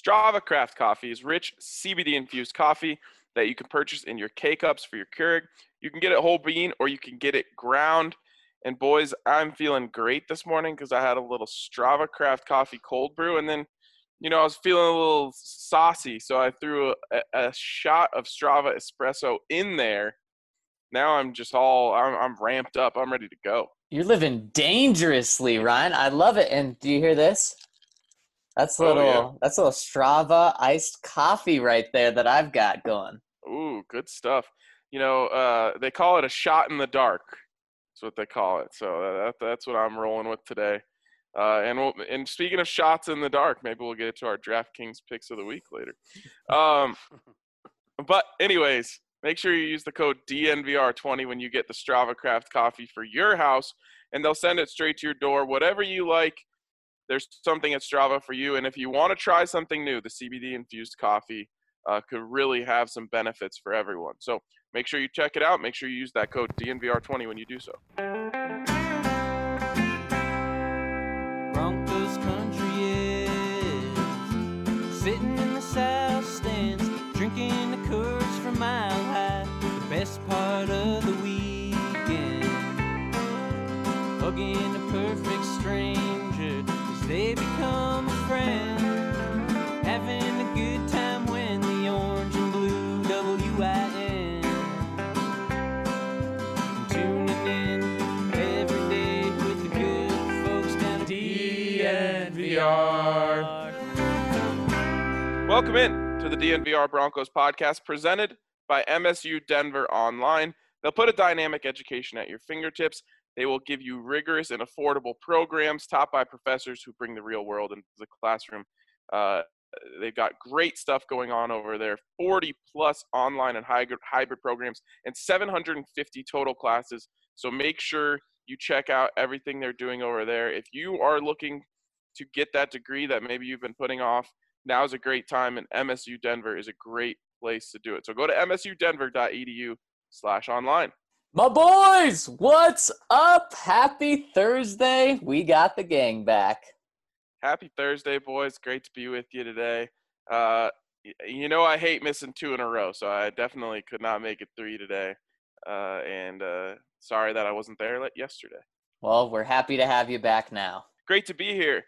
Strava Craft Coffee is rich CBD-infused coffee that you can purchase in your K-Cups for your Keurig. You can get it whole bean or you can get it ground. And boys, I'm feeling great this morning because I had a little Strava Craft Coffee cold brew. And then, I was feeling a little saucy, so I threw a shot of Strava Espresso in there. Now I'm just I'm ramped up. I'm ready to go. You're living dangerously, Ryan. I love it. And do you hear this? That's a little Strava iced coffee right there that I've got going. Ooh, good stuff. They call it a shot in the dark. That's what they call it. So that's what I'm rolling with today. And speaking of shots in the dark, maybe we'll get to our DraftKings picks of the week later. But anyways, make sure you use the code DNVR20 when you get the Strava Craft coffee for your house, and they'll send it straight to your door. Whatever you like, there's something at Strava for you. And if you want to try something new, the CBD-infused coffee could really have some benefits for everyone. So make sure you check it out. Make sure you use that code DNVR20 when you do so. Broncos country is sitting in the south stands, drinking the Coors from Mile High. The best part of the weekend, hugging a perfect stranger as they become a friend, having a good time when the orange and blue WIN, tuning in every day with the good folks down at DNVR. Welcome in to the DNVR Broncos podcast presented by MSU Denver Online. They'll put a dynamic education at your fingertips. They will give you rigorous and affordable programs taught by professors who bring the real world into the classroom. They've got great stuff going on over there, 40-plus online and hybrid programs, and 750 total classes. So make sure you check out everything they're doing over there. If you are looking to get that degree that maybe you've been putting off, now's a great time, and MSU Denver is a great place to do it. So go to msudenver.edu/online. My boys, what's up? Happy Thursday. We got the gang back. Happy Thursday, boys. Great to be with you today. I hate missing 2 in a row, so I definitely could not make it 3 today. And sorry that I wasn't there yesterday. Well, we're happy to have you back now. Great to be here.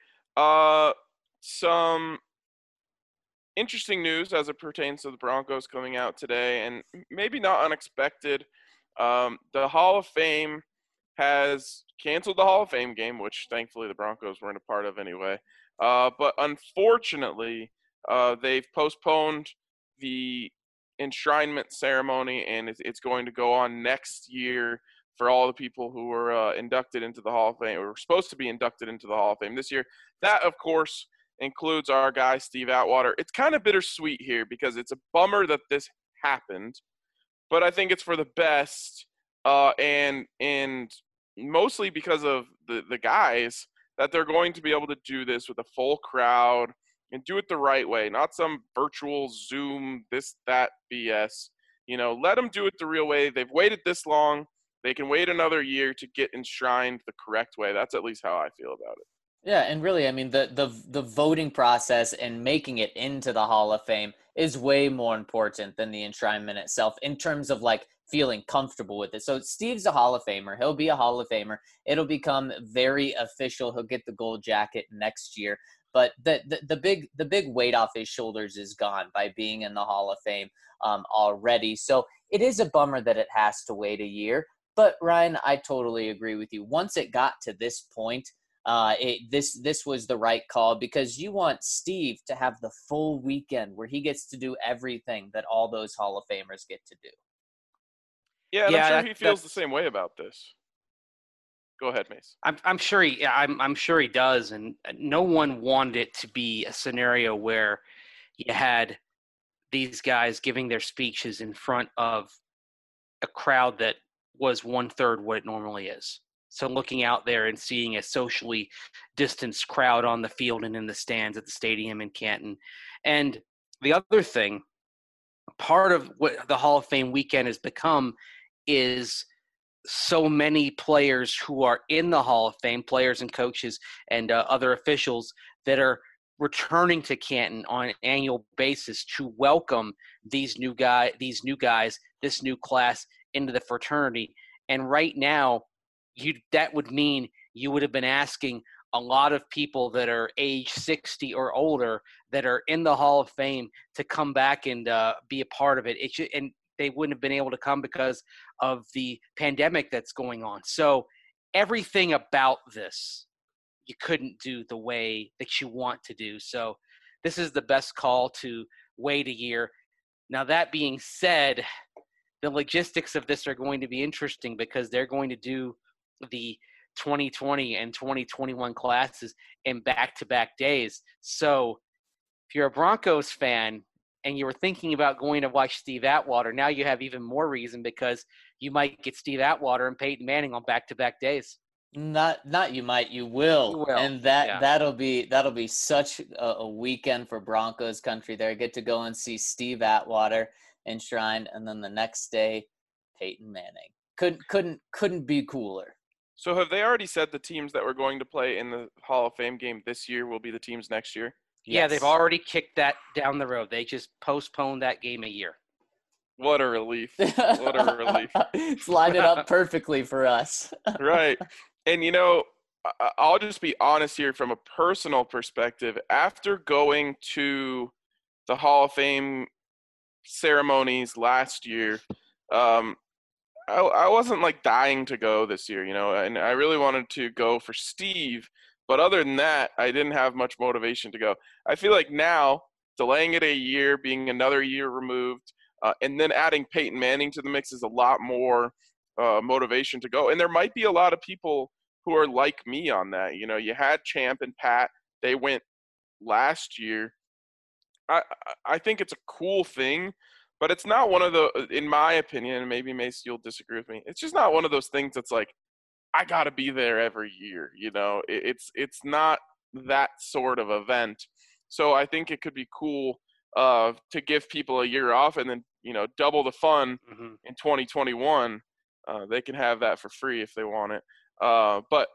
Some interesting news as it pertains to the Broncos coming out today, and maybe not unexpected. The Hall of Fame has canceled the Hall of Fame game, which thankfully the Broncos weren't a part of anyway. But unfortunately, they've postponed the enshrinement ceremony, and it's going to go on next year for all the people who were inducted into the Hall of Fame, or were supposed to be inducted into the Hall of Fame this year. That, of course, includes our guy, Steve Atwater. It's kind of bittersweet here because it's a bummer that this happened, but I think it's for the best, and mostly because of the guys, that they're going to be able to do this with a full crowd and do it the right way, not some virtual Zoom, this, that BS. Let them do it the real way. They've waited this long. They can wait another year to get enshrined the correct way. That's at least how I feel about it. Yeah, and really, I mean, the voting process and making it into the Hall of Fame is way more important than the enshrinement itself in terms of, feeling comfortable with it. So Steve's a Hall of Famer. He'll be a Hall of Famer. It'll become very official. He'll get the gold jacket next year. But the big weight off his shoulders is gone by being in the Hall of Fame already. So it is a bummer that it has to wait a year. But, Ryan, I totally agree with you. Once it got to this point, this was the right call because you want Steve to have the full weekend where he gets to do everything that all those Hall of Famers get to do. Yeah, and I'm sure he feels the same way about this. Go ahead, Mace. I'm sure he does, and no one wanted it to be a scenario where you had these guys giving their speeches in front of a crowd that was 1/3 what it normally is. So looking out there and seeing a socially distanced crowd on the field and in the stands at the stadium in Canton. And the other thing, part of what the Hall of Fame weekend has become is so many players who are in the Hall of Fame, players and coaches and other officials that are returning to Canton on an annual basis to welcome these new guys, this new class into the fraternity. And right now, that would mean you would have been asking a lot of people that are age 60 or older that are in the Hall of Fame to come back and be a part of it. And they wouldn't have been able to come because of the pandemic that's going on. So everything about this, you couldn't do the way that you want to do. So this is the best call to wait a year. Now, that being said, the logistics of this are going to be interesting because they're going to do the 2020 and 2021 classes in back-to-back days. So if you're a Broncos fan and you were thinking about going to watch Steve Atwater, now you have even more reason because you might get Steve Atwater and Peyton Manning on back-to-back days. Not you might, you will. You will. And that'll be such a weekend for Broncos country there. Get to go and see Steve Atwater enshrined, and then the next day, Peyton Manning. Couldn't be cooler. So have they already said the teams that were going to play in the Hall of Fame game this year will be the teams next year? Yeah, Yes. they've already kicked that down the road. They just postponed that game a year. What a relief. What a relief. It's lined it up perfectly for us. Right. And, I'll just be honest here from a personal perspective. After going to the Hall of Fame ceremonies last year, I wasn't dying to go this year, and I really wanted to go for Steve. But other than that, I didn't have much motivation to go. I feel like now, delaying it a year, being another year removed, and then adding Peyton Manning to the mix is a lot more motivation to go. And there might be a lot of people who are like me on that. You had Champ and Pat. They went last year. I think it's a cool thing, but it's not one of the, in my opinion, maybe Mace, you'll disagree with me, it's just not one of those things that's I got to be there every year. It's not that sort of event. So I think it could be cool to give people a year off and then, double the fun in 2021. They can have that for free if they want it. But,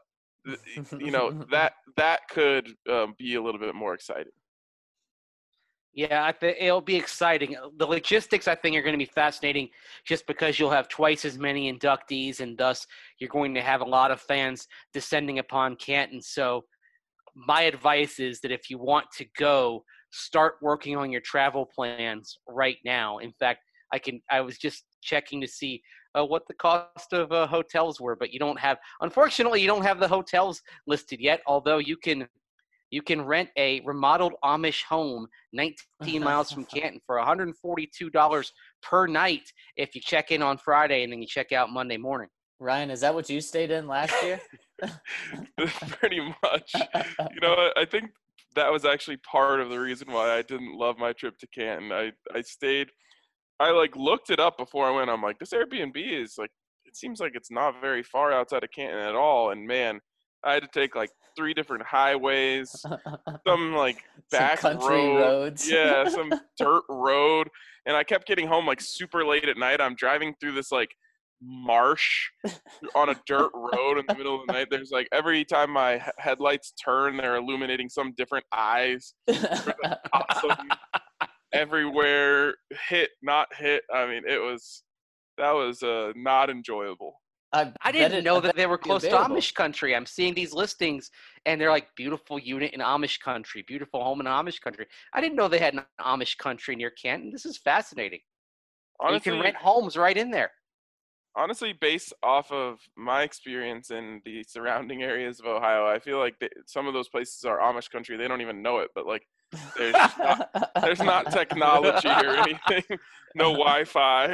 that could be a little bit more exciting. Yeah, I think it'll be exciting. The logistics, I think, are going to be fascinating just because you'll have twice as many inductees, and thus you're going to have a lot of fans descending upon Canton. So my advice is that if you want to go, start working on your travel plans right now. In fact, I was just checking to see what the cost of hotels were, but unfortunately, you don't have the hotels listed yet, although you can rent a remodeled Amish home 19 miles from Canton for $142 per night if you check in on Friday and then you check out Monday morning. Ryan, is that what you stayed in last year? Pretty much. I think that was actually part of the reason why I didn't love my trip to Canton. I stayed – I looked it up before I went. I'm like, this Airbnb is it seems like it's not very far outside of Canton at all. And man, I had to take 3 different highways, some back some country roads. Yeah, some dirt road. And I kept getting home super late at night. I'm driving through this marsh on a dirt road in the middle of the night. There's every time my headlights turn, they're illuminating some different eyes. Awesome. Everywhere, hit, not hit. I mean, that was not enjoyable. I didn't know that they were close to Amish country. I'm seeing these listings, and they're beautiful unit in Amish country, beautiful home in Amish country. I didn't know they had an Amish country near Canton. This is fascinating. Honestly, you can rent homes right in there. Honestly, based off of my experience in the surrounding areas of Ohio, I feel like some of those places are Amish country. They don't even know it, but there's not technology or anything. No Wi-Fi.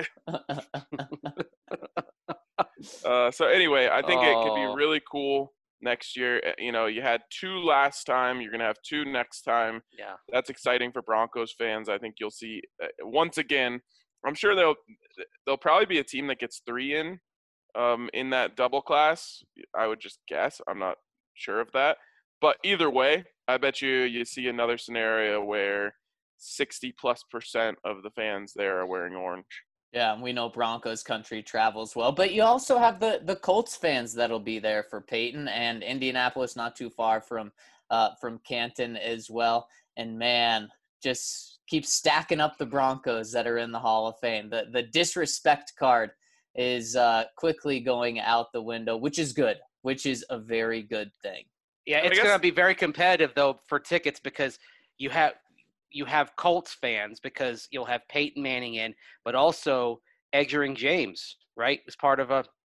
So anyway, I think it could be really cool next year. You had 2 last time. You're going to have 2 next time. Yeah. That's exciting for Broncos fans. I think you'll see once again, I'm sure there'll probably be a team that gets 3 in that double class. I would just guess. I'm not sure of that. But either way, I bet you see another scenario where 60+% of the fans there are wearing orange. Yeah, and we know Broncos country travels well. But you also have the Colts fans that'll be there for Peyton, and Indianapolis not too far from from Canton as well. And man, just keep stacking up the Broncos that are in the Hall of Fame. The disrespect card is quickly going out the window, which is good, which is a very good thing. Yeah, it's going to be very competitive, though, for tickets because you have Colts fans because you'll have Peyton Manning in, but also Edgerrin James, right, as part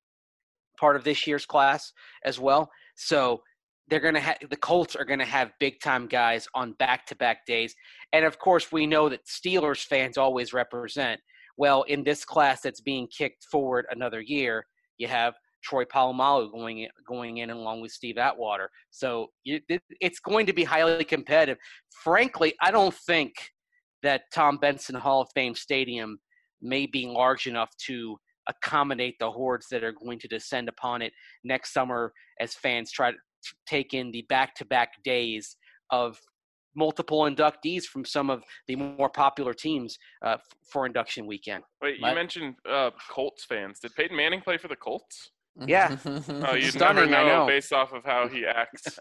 of this year's class as well. So they're going to the Colts are going to have big-time guys on back-to-back days. And, of course, we know that Steelers fans always represent. Well, in this class that's being kicked forward another year, you have Troy Polamalu going in along with Steve Atwater. So it's going to be highly competitive. Frankly, I don't think that Tom Benson Hall of Fame Stadium may be large enough to accommodate the hordes that are going to descend upon it next summer as fans try to take in the back-to-back days of multiple inductees from some of the more popular teams for induction weekend. Wait, you mentioned Colts fans. Did Peyton Manning play for the Colts? Yeah. Oh, you'd Stunning, never I know. based off of how he acts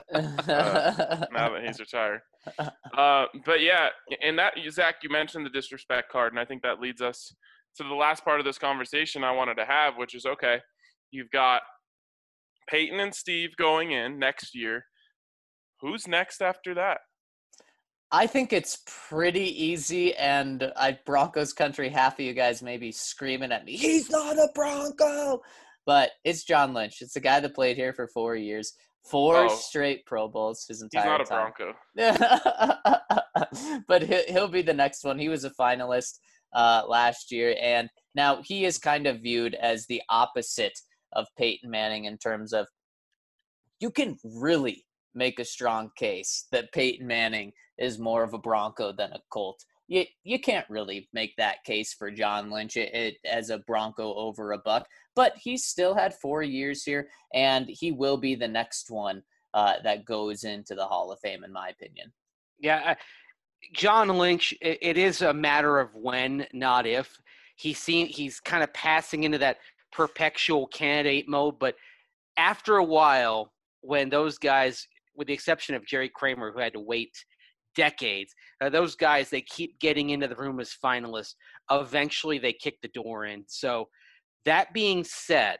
now that he's retired. But yeah, and that, Zach, you mentioned the disrespect card, and I think that leads us to the last part of this conversation I wanted to have, which is, okay, you've got Peyton and Steve going in next year. Who's next after that? I think it's pretty easy, and Broncos country, half of you guys may be screaming at me, he's not a Bronco! But it's John Lynch. It's the guy that played here for 4 years, four straight Pro Bowls his entire time. He's not a Bronco. But he'll be the next one. He was a finalist last year, and now he is kind of viewed as the opposite of Peyton Manning in terms of you can really make a strong case that Peyton Manning is more of a Bronco than a Colt. You can't really make that case for John Lynch as a Bronco over a Buck, but he's still had 4 years here, and he will be the next one that goes into the Hall of Fame, in my opinion. Yeah, John Lynch, it is a matter of when, not if. He's kind of passing into that perpetual candidate mode, but after a while, when those guys, with the exception of Jerry Kramer, who had to wait decades, those guys, they keep getting into the room as finalists. Eventually, they kick the door in. So that being said,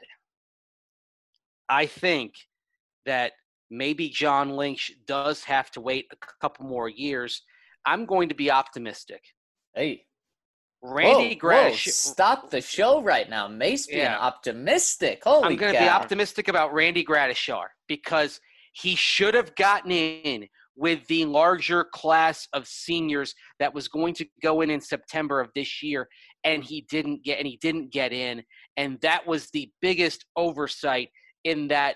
I think that maybe John Lynch does have to wait a couple more years. I'm going to be optimistic. Hey. Randy Gradish. Stop the show right now. Mace being optimistic. Holy cow. I'm going to be optimistic about Randy Gradishar because he should have gotten in with the larger class of seniors that was going to go in September of this year, and he didn't get in, and that was the biggest oversight in that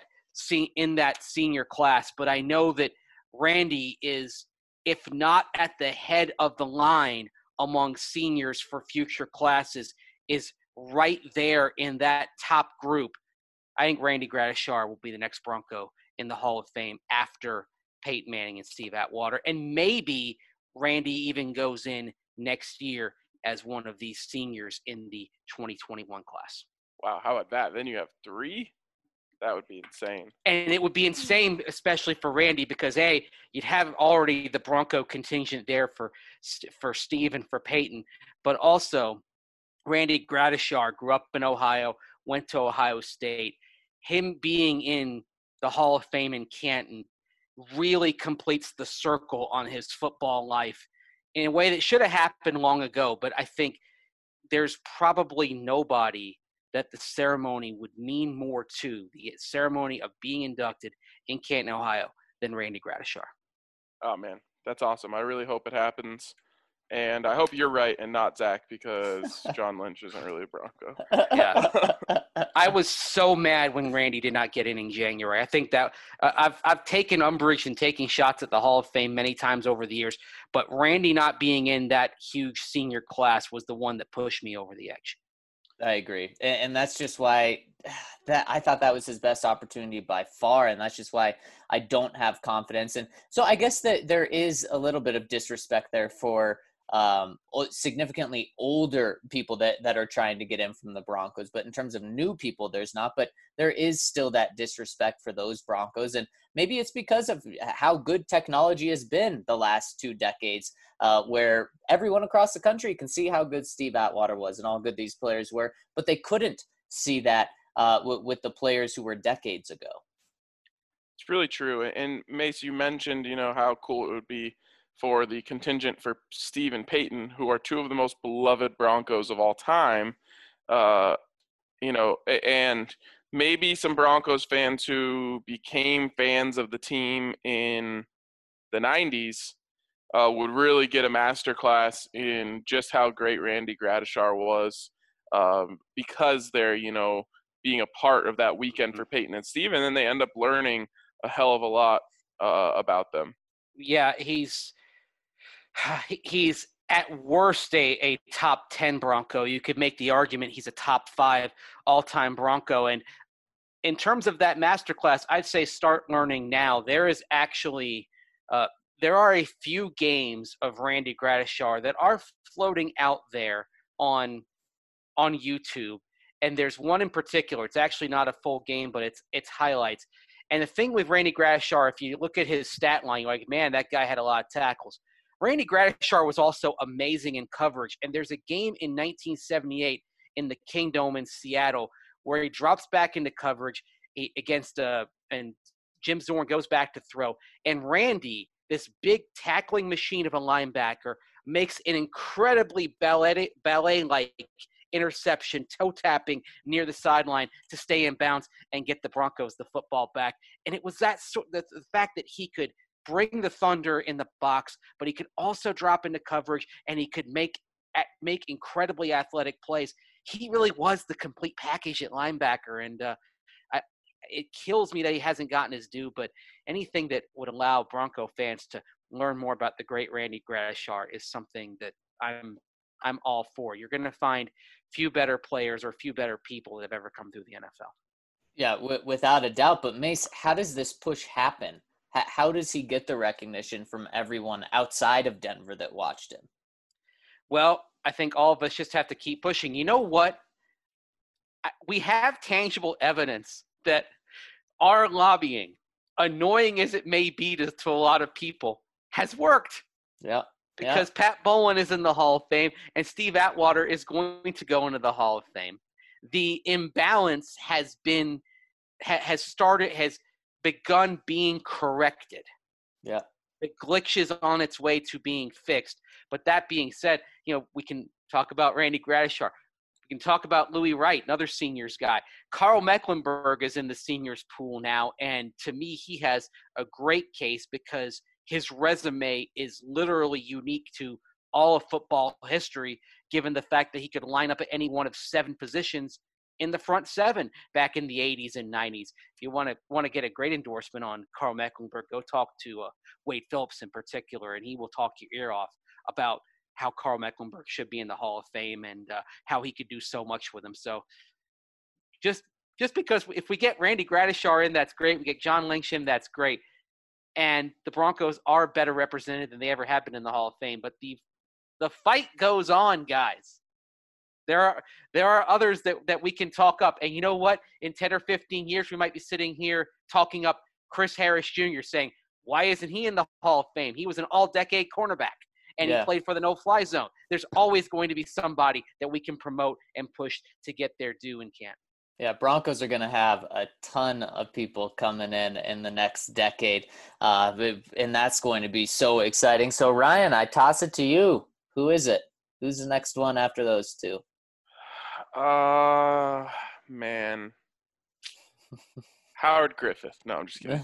senior class. But I know that Randy is, if not at the head of the line among seniors for future classes, is right there in that top group. I think Randy Gradishar will be the next Bronco in the Hall of Fame after Peyton Manning and Steve Atwater. And maybe Randy even goes in next year as one of these seniors in the 2021 class. Wow, how about that? Then you have 3? That would be insane. And it would be insane, especially for Randy, because, A, you'd have already the Bronco contingent there for Steve and for Peyton. But also, Randy Gradishar grew up in Ohio, went to Ohio State. Him being in the Hall of Fame in Canton really completes the circle on his football life in a way that should have happened long ago. But I think there's probably nobody that the ceremony would mean more to, the ceremony of being inducted in Canton, Ohio, than Randy Gradishar. Oh, man, that's awesome. I really hope it happens. And I hope you're right and not Zach, because John Lynch isn't really a Bronco. Yeah. I was so mad when Randy did not get in January. I think that I've taken umbrage and taking shots at the Hall of Fame many times over the years, but Randy not being in that huge senior class was the one that pushed me over the edge. I agree. And that's just why that I thought that was his best opportunity by far. And that's just why I don't have confidence. And so I guess that there is a little bit of disrespect there for significantly older people that are trying to get in from the Broncos. But in terms of new people, there's not. But there is still that disrespect for those Broncos. And maybe it's because of how good technology has been the last 2 decades, where everyone across the country can see how good Steve Atwater was and how good these players were. But they couldn't see that with the players who were decades ago. It's really true. And Mace, you mentioned, how cool it would be for the contingent for Steve and Peyton, who are 2 of the most beloved Broncos of all time. And maybe some Broncos fans who became fans of the team in the 90s would really get a masterclass in just how great Randy Gradishar was, because they're, being a part of that weekend for Peyton and Steve, and then they end up learning a hell of a lot about them. Yeah, he's at worst a top 10 Bronco. You could make the argument he's a top 5 all-time Bronco. And in terms of that masterclass, I'd say start learning now. There is actually there are a few games of Randy Gradishar that are floating out there on YouTube. And there's one in particular. It's actually not a full game, but it's highlights. And the thing with Randy Gradishar, if you look at his stat line, you're like, man, that guy had a lot of tackles. Randy Gradishar was also amazing in coverage. And there's a game in 1978 in the Kingdome in Seattle where he drops back into coverage against and Jim Zorn goes back to throw. And Randy, this big tackling machine of a linebacker, makes an incredibly ballet-like interception, toe tapping near the sideline to stay in bounds and get the Broncos the football back. And it was the fact that he could bring the thunder in the box, but he could also drop into coverage and he could make incredibly athletic plays. He really was the complete package at linebacker, and it kills me that he hasn't gotten his due. But anything that would allow Bronco fans to learn more about the great Randy Gradishar is something that I'm all for. You're going to find few better players or few better people that have ever come through the NFL. Yeah, without a doubt. But Mace, how does this push happen? How does he get the recognition from everyone outside of Denver that watched him? Well, I think all of us just have to keep pushing. You know what? We have tangible evidence that our lobbying, annoying as it may be to a lot of people, has worked. Yeah. Because Pat Bowlen is in the Hall of Fame and Steve Atwater is going to go into the Hall of Fame. The imbalance has begun being corrected. Yeah. The glitch is on its way to being fixed. But that being said, we can talk about Randy Gradishar. We can talk about Louis Wright, another seniors guy. Carl Mecklenburg is in the seniors pool now, and to me, he has a great case because his resume is literally unique to all of football history, given the fact that he could line up at any one of 7 positions in the front 7 back in the 80s and 90s. If you want to get a great endorsement on Carl Mecklenburg, go talk to Wade Phillips in particular, and he will talk your ear off about how Carl Mecklenburg should be in the Hall of Fame and how he could do so much with him. So just because if we get Randy Gradishar in, that's great. We get John Lyncham, that's great. And the Broncos are better represented than they ever have been in the Hall of Fame. But the fight goes on, guys. There are others that we can talk up. And you know what? In 10 or 15 years, we might be sitting here talking up Chris Harris Jr. saying, why isn't he in the Hall of Fame? He was an all-decade cornerback, and he played for the no-fly zone. There's always going to be somebody that we can promote and push to get their due in camp. Yeah, Broncos are going to have a ton of people coming in the next decade, and that's going to be so exciting. So, Ryan, I toss it to you. Who is it? Who's the next one after those 2? Man. Howard Griffith. No, I'm just kidding.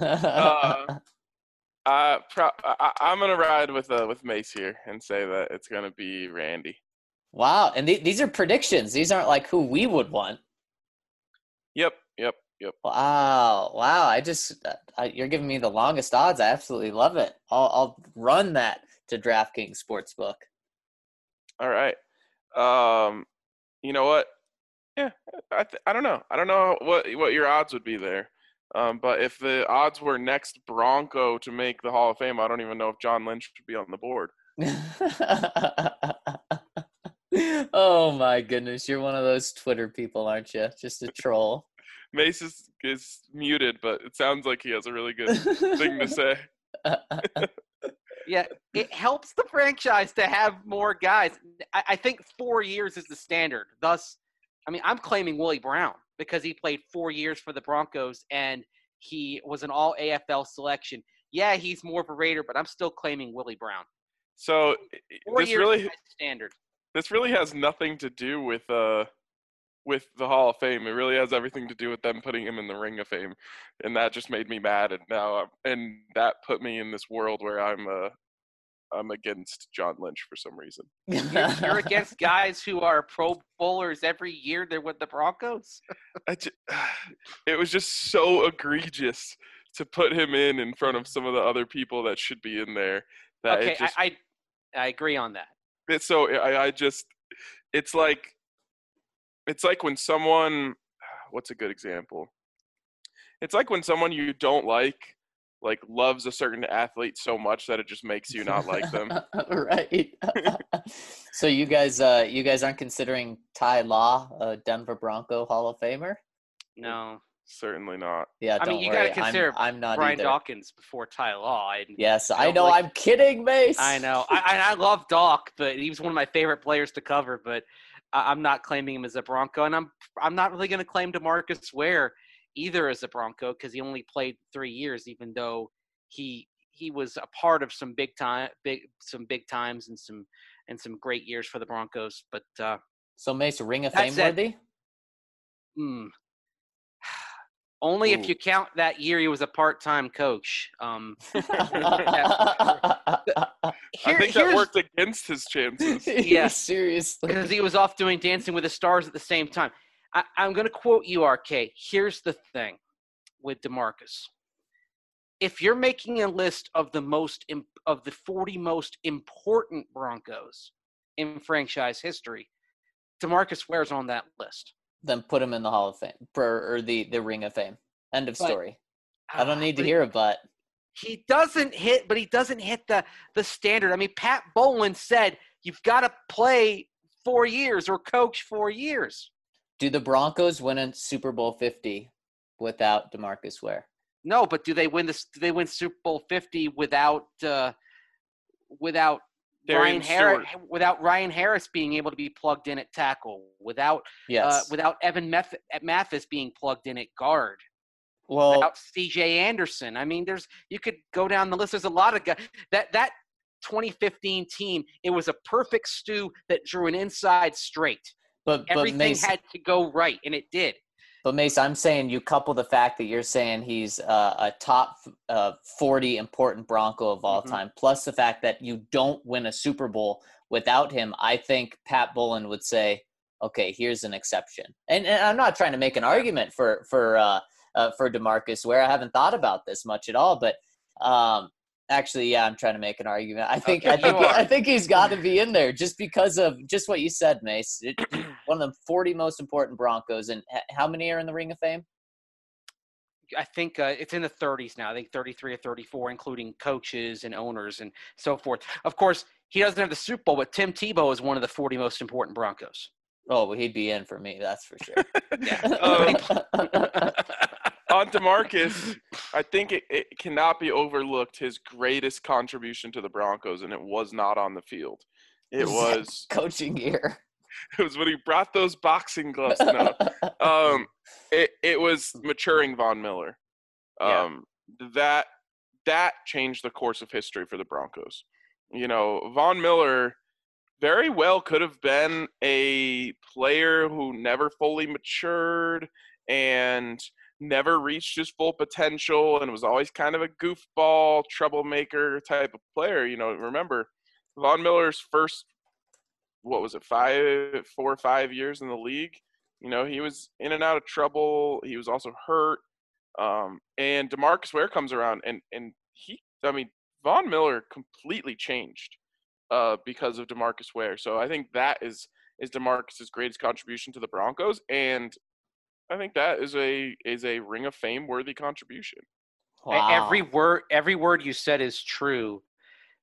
I'm going to ride with Mace here and say that it's going to be Randy. Wow, and these are predictions. These aren't like who we would want. Yep. Wow. You're giving me the longest odds. I absolutely love it. I'll run that to DraftKings Sportsbook. All right. You know what? Yeah, I don't know. I don't know what your odds would be there. But if the odds were next Bronco to make the Hall of Fame, I don't even know if John Lynch should be on the board. Oh my goodness, you're one of those Twitter people, aren't you? Just a troll. Mace is muted, but it sounds like he has a really good thing to say. Yeah, it helps the franchise to have more guys. I think 4 years is the standard. Thus, I mean, I'm claiming Willie Brown because he played 4 years for the Broncos and he was an all AFL selection. Yeah, he's more of a Raider, but I'm still claiming Willie Brown. So 4 years is standard. This really has nothing to do with the Hall of Fame. It really has everything to do with them putting him in the Ring of Fame, and that just made me mad. And that put me in this world where I'm against John Lynch for some reason. You're against guys who are Pro Bowlers every year. They're with the Broncos. It was just so egregious to put him in front of some of the other people that should be in there. That okay, I agree on that. It's so it's like when someone, what's a good example? It's like when someone you don't like loves a certain athlete so much that it just makes you not like them. Right. So you guys aren't considering Ty Law a Denver Bronco Hall of Famer? No. Certainly not. Yeah, I mean, you got to consider I'm not Brian either. Dawkins before Ty Law. Yes, I know. I'm kidding, Mace. I know. I love Doc, but he was one of my favorite players to cover. But I'm not claiming him as a Bronco, and I'm not really going to claim DeMarcus Ware either as a Bronco because he only played 3 years, even though he was a part of some big times and some great years for the Broncos. But so Mace, Ring of Fame worthy? Only if you count that year he was a part-time coach. I think that worked against his chances. Yeah, seriously. Because he was off doing Dancing with the Stars at the same time. I'm going to quote you, RK. Here's the thing with DeMarcus. If you're making a list of the 40 most important Broncos in franchise history, DeMarcus Ware's on that list. Then put him in the Hall of Fame or the Ring of Fame. End of story. I don't need to hear it, but he doesn't hit the standard. I mean, Pat Bowlen said you've got to play 4 years or coach 4 years. Do the Broncos win a Super Bowl 50 without DeMarcus Ware? No, but do they win Super Bowl 50 without Ryan Harris being able to be plugged in at tackle, without Evan Mathis being plugged in at guard, without C.J. Anderson? I mean, you could go down the list. There's a lot of guys. That 2015 team, it was a perfect stew that drew an inside straight. But everything Mace, had to go right, and it did. But Mace, I'm saying you couple the fact that you're saying he's a top 40 important Bronco of all time, plus the fact that you don't win a Super Bowl without him. I think Pat Bowlen would say, "Okay, here's an exception." And I'm not trying to make an argument for DeMarcus Ware. I haven't thought about this much at all, but actually, yeah, I'm trying to make an argument. I think he's got to be in there just because of just what you said, Mace. One of the 40 most important Broncos. And how many are in the Ring of Fame? I think it's in the 30s now. I think 33 or 34, including coaches and owners and so forth. Of course, he doesn't have the Super Bowl, but Tim Tebow is one of the 40 most important Broncos. Oh, well, he'd be in for me, that's for sure. On DeMarcus, I think it cannot be overlooked his greatest contribution to the Broncos, and it was not on the field. It was coaching gear. It was when he brought those boxing gloves. No, it was maturing Von Miller. That changed the course of history for the Broncos. You know, Von Miller very well could have been a player who never fully matured and never reached his full potential and was always kind of a goofball, troublemaker type of player. You know, remember Von Miller's first, 4 or 5 years in the league, you know, he was in and out of trouble. He was also hurt. And DeMarcus Ware comes around and Von Miller completely changed because of DeMarcus Ware. So I think that is DeMarcus's greatest contribution to the Broncos, and I think that is a Ring of Fame worthy contribution. Wow. Every word you said is true.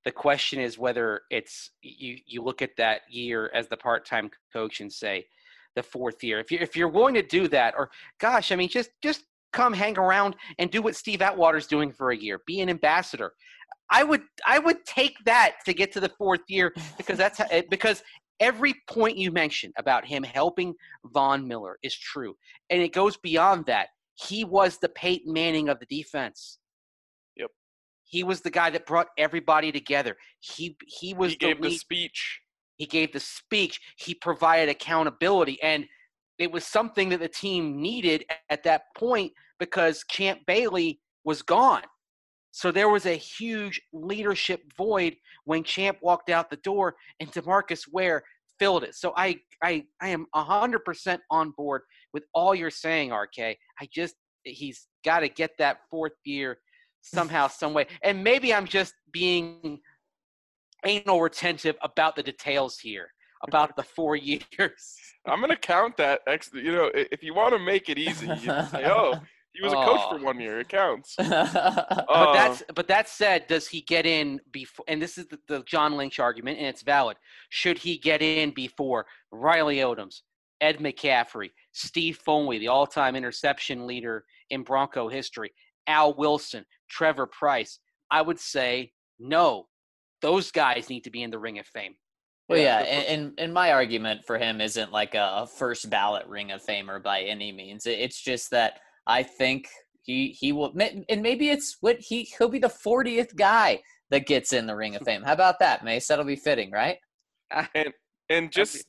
The question is whether it's you look at that year as the part-time coach and say the fourth year. If you're willing to do that, or gosh, I mean, just come hang around and do what Steve Atwater's doing for a year. Be an ambassador. I would take that to get to the fourth year because every point you mentioned about him helping Von Miller is true, and it goes beyond that. He was the Peyton Manning of the defense. Yep. He was the guy that brought everybody together. He was He gave the speech. He gave the speech. He provided accountability, and it was something that the team needed at that point because Champ Bailey was gone. So there was a huge leadership void when Champ walked out the door, and DeMarcus Ware filled it. So I am 100% on board with all you're saying, RK. He's got to get that fourth year somehow, some way. And maybe I'm just being anal retentive about the details here, about the 4 years. I'm going to count that. If you want to make it easy, you say, oh, he was a coach for 1 year. It counts. But that said, does he get in before? And this is the John Lynch argument, and it's valid. Should he get in before Riley Odoms, Ed McCaffrey, Steve Foley, the all-time interception leader in Bronco history, Al Wilson, Trevor Price? I would say no. Those guys need to be in the Ring of Fame. Well, yeah, and my argument for him isn't like a first ballot Ring of Famer by any means. It's just that I think he will, and maybe it's what he'll be the 40th guy that gets in the Ring of Fame. How about that, Mace? That'll be fitting, right? And just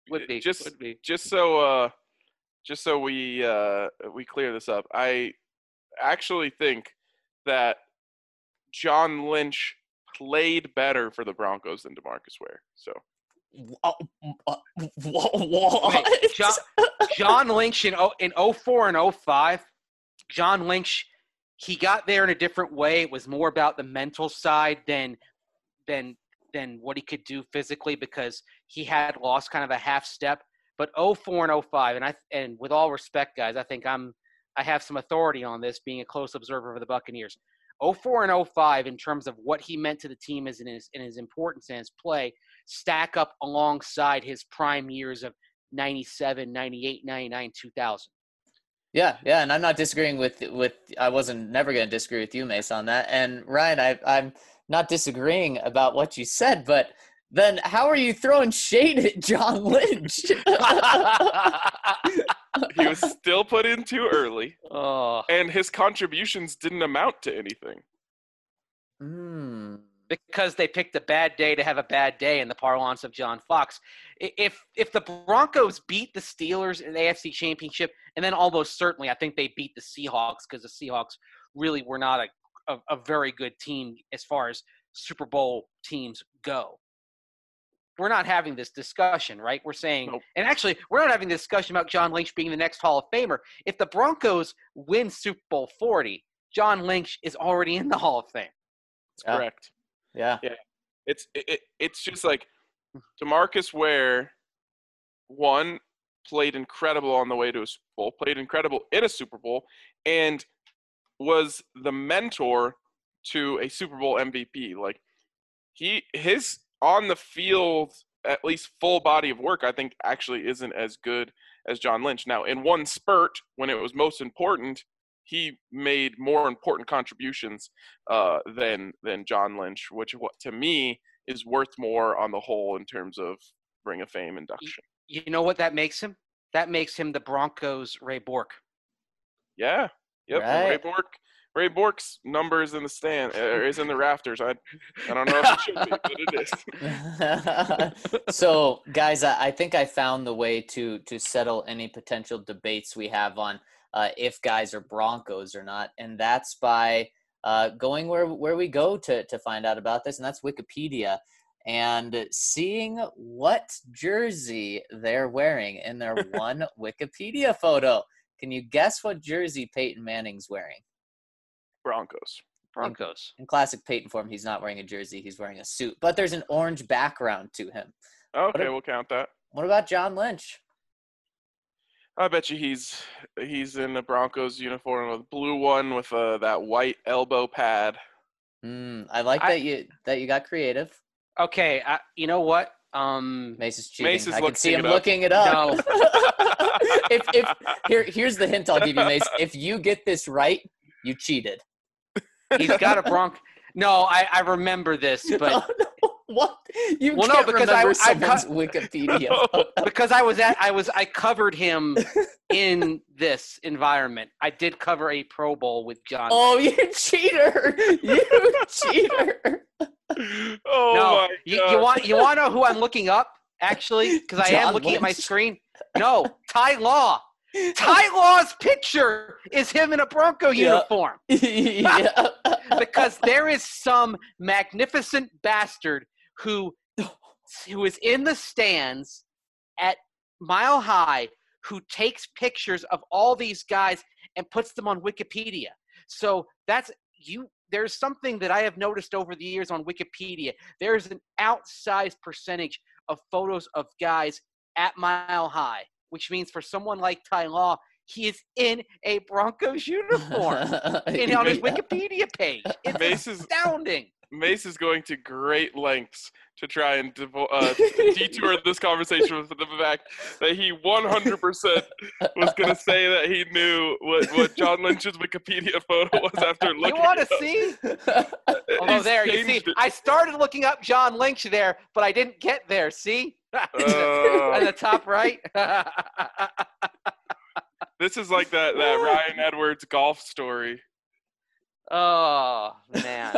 so we clear this up, I actually think that John Lynch played better for the Broncos than DeMarcus Ware. So. Wait, John Lynch in 04 and 05, John Lynch, he got there in a different way. It was more about the mental side than what he could do physically because he had lost kind of a half step. But 04 and 05, and with all respect, guys, I think I have some authority on this, being a close observer of the Buccaneers. 04 and 05, in terms of what he meant to the team in his importance and his play, stack up alongside his prime years of 97, 98, 99, 2000. Yeah, and I'm not disagreeing with I wasn't never going to disagree with you, Mace, on that. And Ryan, I'm not disagreeing about what you said, but then how are you throwing shade at John Lynch? He was still put in too early, and his contributions didn't amount to anything. Because they picked a bad day to have a bad day in the parlance of John Fox. If the Broncos beat the Steelers in the AFC Championship, and then almost certainly I think they beat the Seahawks because the Seahawks really were not a very good team as far as Super Bowl teams go. We're not having this discussion, right? We're saying nope. And actually, we're not having this discussion about John Lynch being the next Hall of Famer. If the Broncos win Super Bowl 40, John Lynch is already in the Hall of Fame. That's correct. Yeah. It's just like DeMarcus Ware, one, played incredible on the way to a Super Bowl, played incredible in a Super Bowl, and was the mentor to a Super Bowl MVP. Like his on the field, at least full body of work, I think actually isn't as good as John Lynch. Now, in one spurt, when it was most important, he made more important contributions than John Lynch, which to me is worth more on the whole in terms of Ring of Fame induction. You know what that makes him? That makes him the Broncos' Ray Bork. Yeah. Yep. Right. Ray Bork's number is in the stand, is in the rafters. I don't know if it should be, but it is. So, guys, I think I found the way to settle any potential debates we have on if guys are Broncos or not, and that's by going where we go to find out about this, and that's Wikipedia, and seeing what jersey they're wearing in their one Wikipedia photo. Can you guess what jersey Peyton Manning's wearing? Broncos. In classic Peyton form, he's not wearing a jersey. He's wearing a suit. But there's an orange background to him. Okay, we'll count that. What about John Lynch? I bet you he's in a Broncos uniform, with blue one with that white elbow pad. I like that you got creative. Okay, you know what? Mace is cheating. Mace is I can see him looking looking it up. No. Here's the hint I'll give you, Mace. If you get this right, you cheated. He's got a Bronco. No, I remember this, but Oh, no. What? You Well, no, can't because remember I someone's Wikipedia. because I covered him in this environment. I did cover a Pro Bowl with John. Oh, you cheater! You cheater! Oh No, my God. you want to know who I'm looking up? Actually, because I am John looking at my Lynch? screen. No, Ty Law. Ty Law's picture is him in a Bronco uniform. Yeah. Because there is some magnificent bastard who is in the stands at Mile High who takes pictures of all these guys and puts them on Wikipedia. So there's something that I have noticed over the years on Wikipedia. There's an outsized percentage of photos of guys at Mile High, which means for someone like Ty Law, he is in a Broncos uniform and on his Wikipedia page. It's Mace is- astounding. Mace is going to great lengths to try and detour this conversation with the fact that he 100% was going to say that he knew what John Lynch's Wikipedia photo was after looking. You want to it up. see? Although He's there, you see, changed it. I started looking up John Lynch there, but I didn't get there. See? On the top right. This is like that Ryan Edwards golf story. Oh man.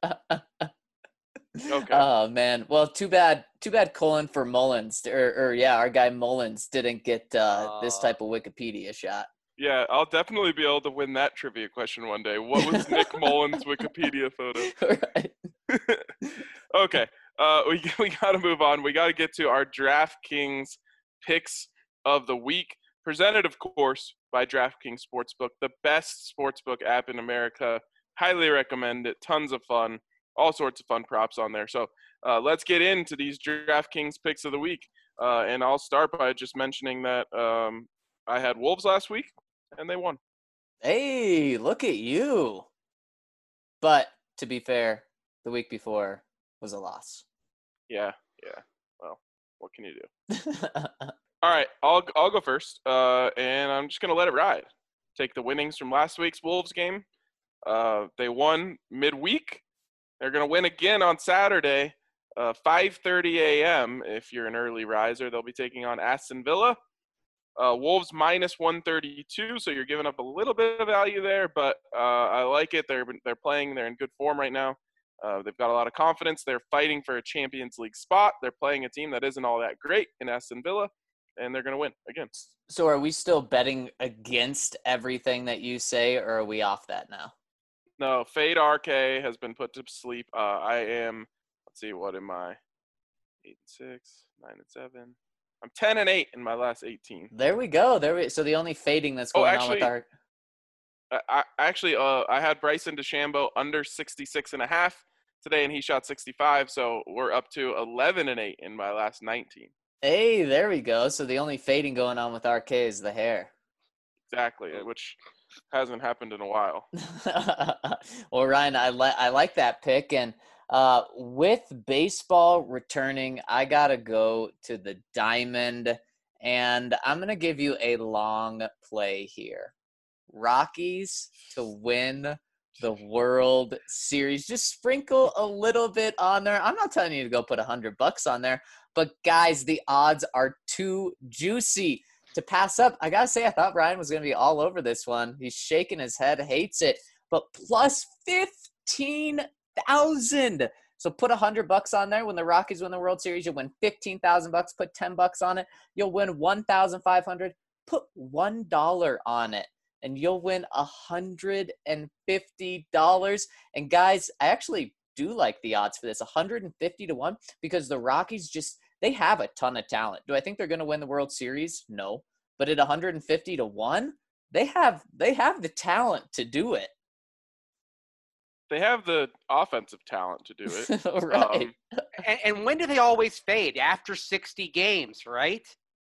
Okay. Oh man. Well, too bad Colin for Mullins or our guy Mullins didn't get this type of Wikipedia shot. Yeah, I'll definitely be able to win that trivia question one day. What was Nick Mullins' Wikipedia photo? Right. Okay, we got to move on. We got to get to our DraftKings picks of the week, presented, of course, by DraftKings Sportsbook, the best sportsbook app in America. Highly recommend it. Tons of fun. All sorts of fun props on there. So let's get into these DraftKings picks of the week. And I'll start by just mentioning that I had Wolves last week, and they won. Hey, look at you. But to be fair, the week before was a loss. Yeah. Well, what can you do? All right, I'll go first, and I'm just going to let it ride. Take the winnings from last week's Wolves game. They won midweek. They're going to win again on Saturday, 5:30 a.m. If you're an early riser, they'll be taking on Aston Villa. Wolves minus 132, so you're giving up a little bit of value there, but I like it. They're playing. They're in good form right now. They've got a lot of confidence. They're fighting for a Champions League spot. They're playing a team that isn't all that great in Aston Villa, and they're going to win again. So are we still betting against everything that you say, or are we off that now? No, Fade RK has been put to sleep. I am, let's see, what am I? 8-6, 9-7. I'm 10-8 in my last 18. There we go. So the only fading that's going on with our I had Bryson DeChambeau under 66.5 today, and he shot 65. So we're up to 11-8 in my last 19. Hey, there we go. So the only fading going on with RK is the hair. Exactly, which hasn't happened in a while. Well, Ryan, I like that pick, and with baseball returning, I gotta go to the diamond, and I'm gonna give you a long play here. Rockies to win the World Series. Just sprinkle a little bit on there. I'm not telling you to go put $100 on there, but guys, the odds are too juicy to pass up. I gotta say, I thought Ryan was gonna be all over this one. He's shaking his head, hates it, but plus 15,000. So put $100 on there. When the Rockies win the World Series, you'll win $15,000. Put $10 on it, you'll win $1,500. Put $1 on it, and you'll win $150. And guys, I actually do like the odds for this, 150-1, because the Rockies they have a ton of talent. Do I think they're going to win the World Series? No. But at 150-1, they have the talent to do it. They have the offensive talent to do it. Right. And when do they always fade? After 60 games, right?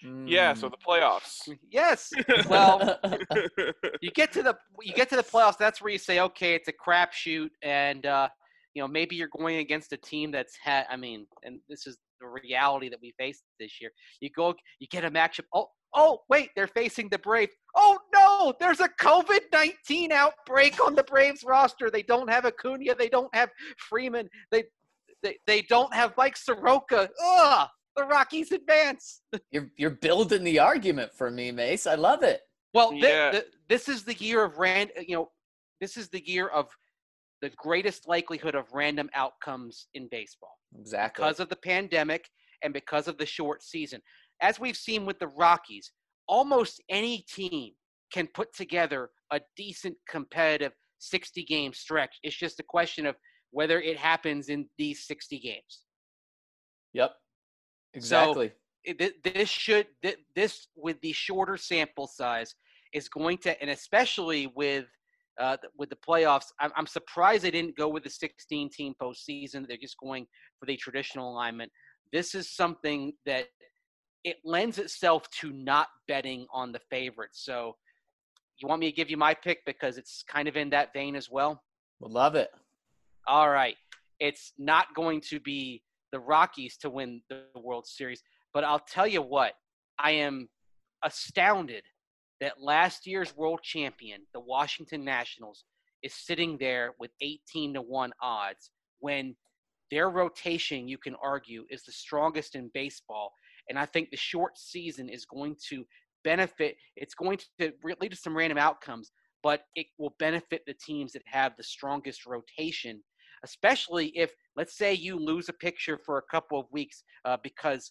Yeah, so the playoffs. Yes. Well, you get to the playoffs. That's where you say, okay, it's a crapshoot, and maybe you're going against a team that's and this is the reality that we face this year. You get a matchup. Oh, wait, they're facing the Braves. Oh no, there's a COVID-19 outbreak on the Braves roster. They don't have Acuna. They don't have Freeman. They don't have Mike Soroka. Ugh. The Rockies advance. You're building the argument for me, Mace. I love it. Well, this is the year of this is the year of the greatest likelihood of random outcomes in baseball. Exactly. Because of the pandemic and because of the short season. As we've seen with the Rockies, almost any team can put together a decent competitive 60-game stretch. It's just a question of whether it happens in these 60 games. Yep. Exactly. So this with the shorter sample size is going to, and especially with the playoffs, I'm surprised they didn't go with the 16-team postseason. They're just going for the traditional alignment. This is something that it lends itself to not betting on the favorites. So you want me to give you my pick because it's kind of in that vein as well? Would love it. All right. It's not going to be the Rockies to win the World Series. But I'll tell you what, I am astounded that last year's world champion, the Washington Nationals, is sitting there with 18-1 odds when their rotation, you can argue, is the strongest in baseball. And I think the short season is going to benefit. It's going to lead to some random outcomes, but it will benefit the teams that have the strongest rotation, especially if, let's say, you lose a pitcher for a couple of weeks because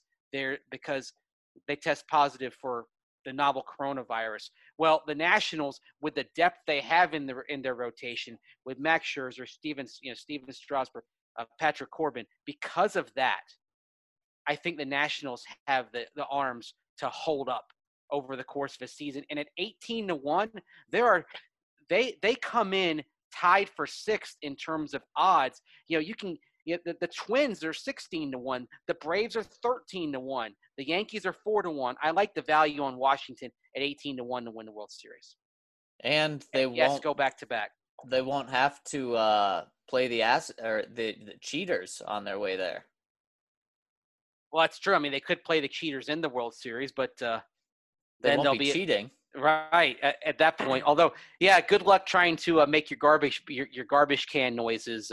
they test positive for the novel coronavirus. Well, the Nationals, with the depth they have in their rotation, with Max Scherzer, Steven Strasburg, Patrick Corbin, because of that, I think the Nationals have the arms to hold up over the course of a season. And at 18-1, they come in tied for sixth in terms of odds. The Twins are 16-1. The Braves are 13-1. The Yankees are 4-1. I like the value on Washington at 18-1 to win the World Series. And they won't go back to back. They won't have to play the cheaters on their way there. Well, that's true. I mean, they could play the cheaters in the World Series, but They then won't they'll be cheating. Right at that point. Although, yeah, good luck trying to make your garbage can noises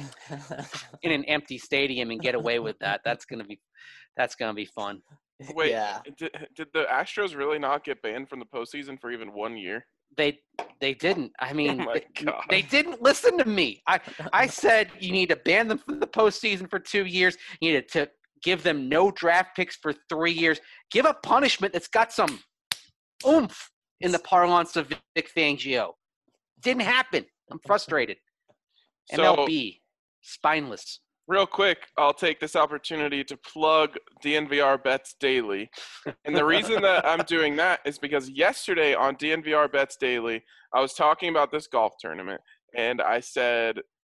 in an empty stadium and get away with that. That's gonna be fun. Wait, Yeah. did the Astros really not get banned from the postseason for even 1 year? They didn't. I mean, Oh my God. they didn't listen to me. I said you need to ban them from the postseason for 2 years. You need to give them no draft picks for 3 years. Give a punishment that's got some oomph in the parlance of Vic Fangio. Didn't happen. I'm frustrated. So, MLB, spineless. real quick, I'll take this opportunity to plug DNVR Bets Daily. And the reason that I'm doing that is because yesterday on DNVR Bets Daily, I was talking about this golf tournament, and I said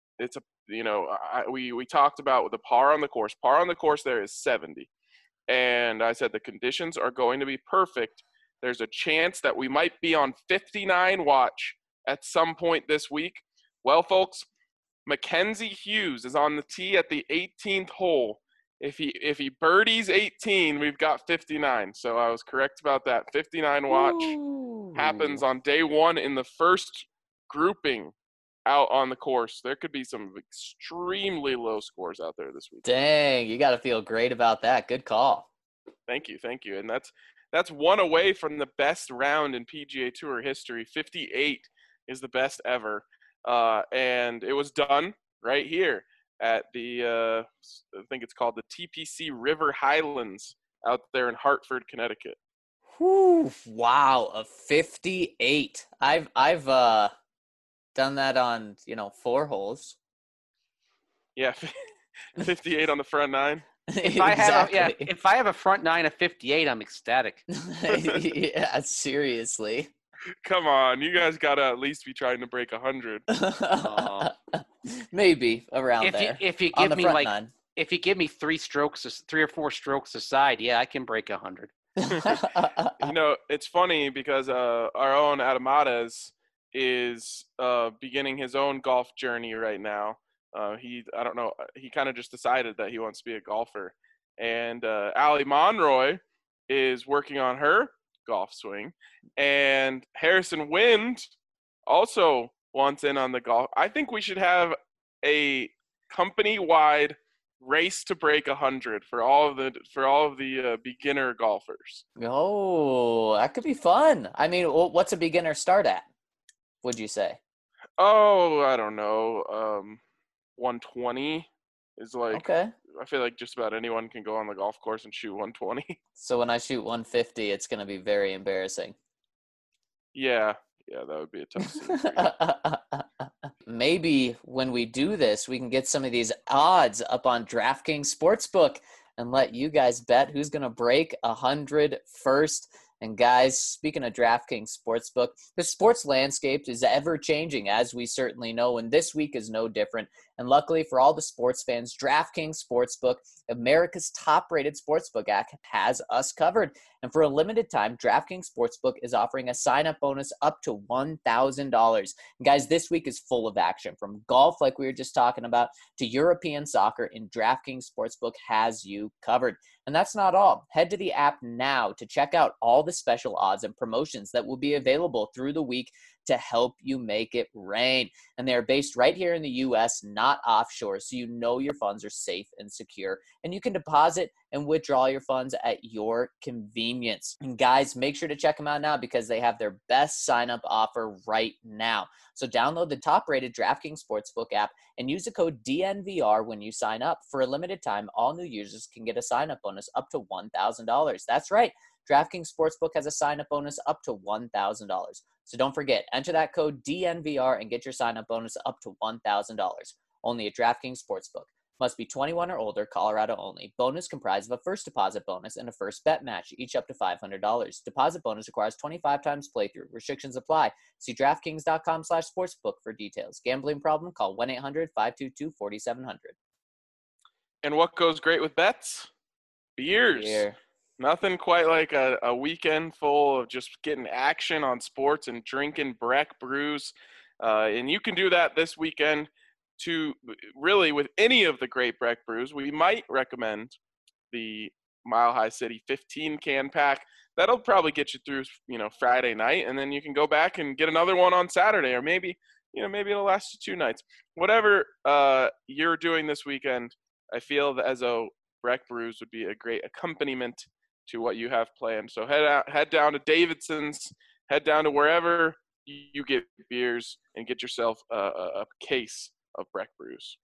we talked about the par on the course. Par on the course there is 70. And I said the conditions are going to be perfect. There's a chance that we might be on 59 watch at some point this week. Well, folks, Mackenzie Hughes is on the tee at the 18th hole. If he birdies 18, we've got 59. So I was correct about that. 59 watch happens on day one in the first grouping out on the course. There could be some extremely low scores out there this week. Dang, you got to feel great about that. Good call. Thank you. And that's one away from the best round in PGA Tour history. 58 is the best ever. And it was done right here at the, I think it's called the TPC River Highlands out there in Hartford, Connecticut. Whew, wow, a 58. I've done that on, 4 holes. Yeah, 58 on the front nine. If I have a front nine of 58, I'm ecstatic. Yeah, seriously. Come on, you guys gotta at least be trying to break 100. Maybe around there. If you on give the me front nine. if you give me 3 or 4 strokes aside, yeah, I can break 100. It's funny because our own Adamades is beginning his own golf journey right now. I don't know, he kind of just decided that he wants to be a golfer. And Allie Monroy is working on her golf swing. And Harrison Wind also wants in on the golf. I think we should have a company-wide race to break 100 for all of the beginner golfers. Oh, that could be fun. I mean, what's a beginner start at, would you say? Oh, I don't know. 120 is like, Okay. I feel like just about anyone can go on the golf course and shoot 120. So when I shoot 150, it's going to be very embarrassing. Yeah, that would be a tough scene for you. Maybe when we do this, we can get some of these odds up on DraftKings Sportsbook and let you guys bet who's going to break 100 first. And guys, speaking of DraftKings Sportsbook, the sports landscape is ever changing, as we certainly know, and this week is no different. And luckily for all the sports fans, DraftKings Sportsbook, America's top-rated sportsbook app, has us covered. And for a limited time, DraftKings Sportsbook is offering a sign-up bonus up to $1,000. And guys, this week is full of action, from golf, like we were just talking about, to European soccer, and DraftKings Sportsbook has you covered. And that's not all. Head to the app now to check out all the special odds and promotions that will be available through the week to help you make it rain. And they're based right here in the U.S., not offshore, so you know your funds are safe and secure. And you can deposit and withdraw your funds at your convenience. And guys, make sure to check them out now because they have their best sign-up offer right now. So download the top-rated DraftKings Sportsbook app and use the code DNVR when you sign up. For a limited time, all new users can get a sign-up bonus up to $1,000. That's right. DraftKings Sportsbook has a sign-up bonus up to $1,000. So don't forget, enter that code DNVR and get your sign-up bonus up to $1,000. Only at DraftKings Sportsbook. Must be 21 or older, Colorado only. Bonus comprised of a first deposit bonus and a first bet match, each up to $500. Deposit bonus requires 25 times playthrough. Restrictions apply. See DraftKings.com/sportsbook for details. Gambling problem? Call 1-800-522-4700. And what goes great with bets? Beers. Beer. Nothing quite like a weekend full of just getting action on sports and drinking Breck brews. And you can do that this weekend to really with any of the great Breck brews. We might recommend the Mile High City 15 can pack. That'll probably get you through, Friday night, and then you can go back and get another one on Saturday, or maybe it'll last you 2 nights. Whatever you're doing this weekend, I feel that as a Breck brews would be a great accompaniment to what you have planned. So head down to Davidson's, head down to wherever you get beers, and get yourself a case of Breck brews.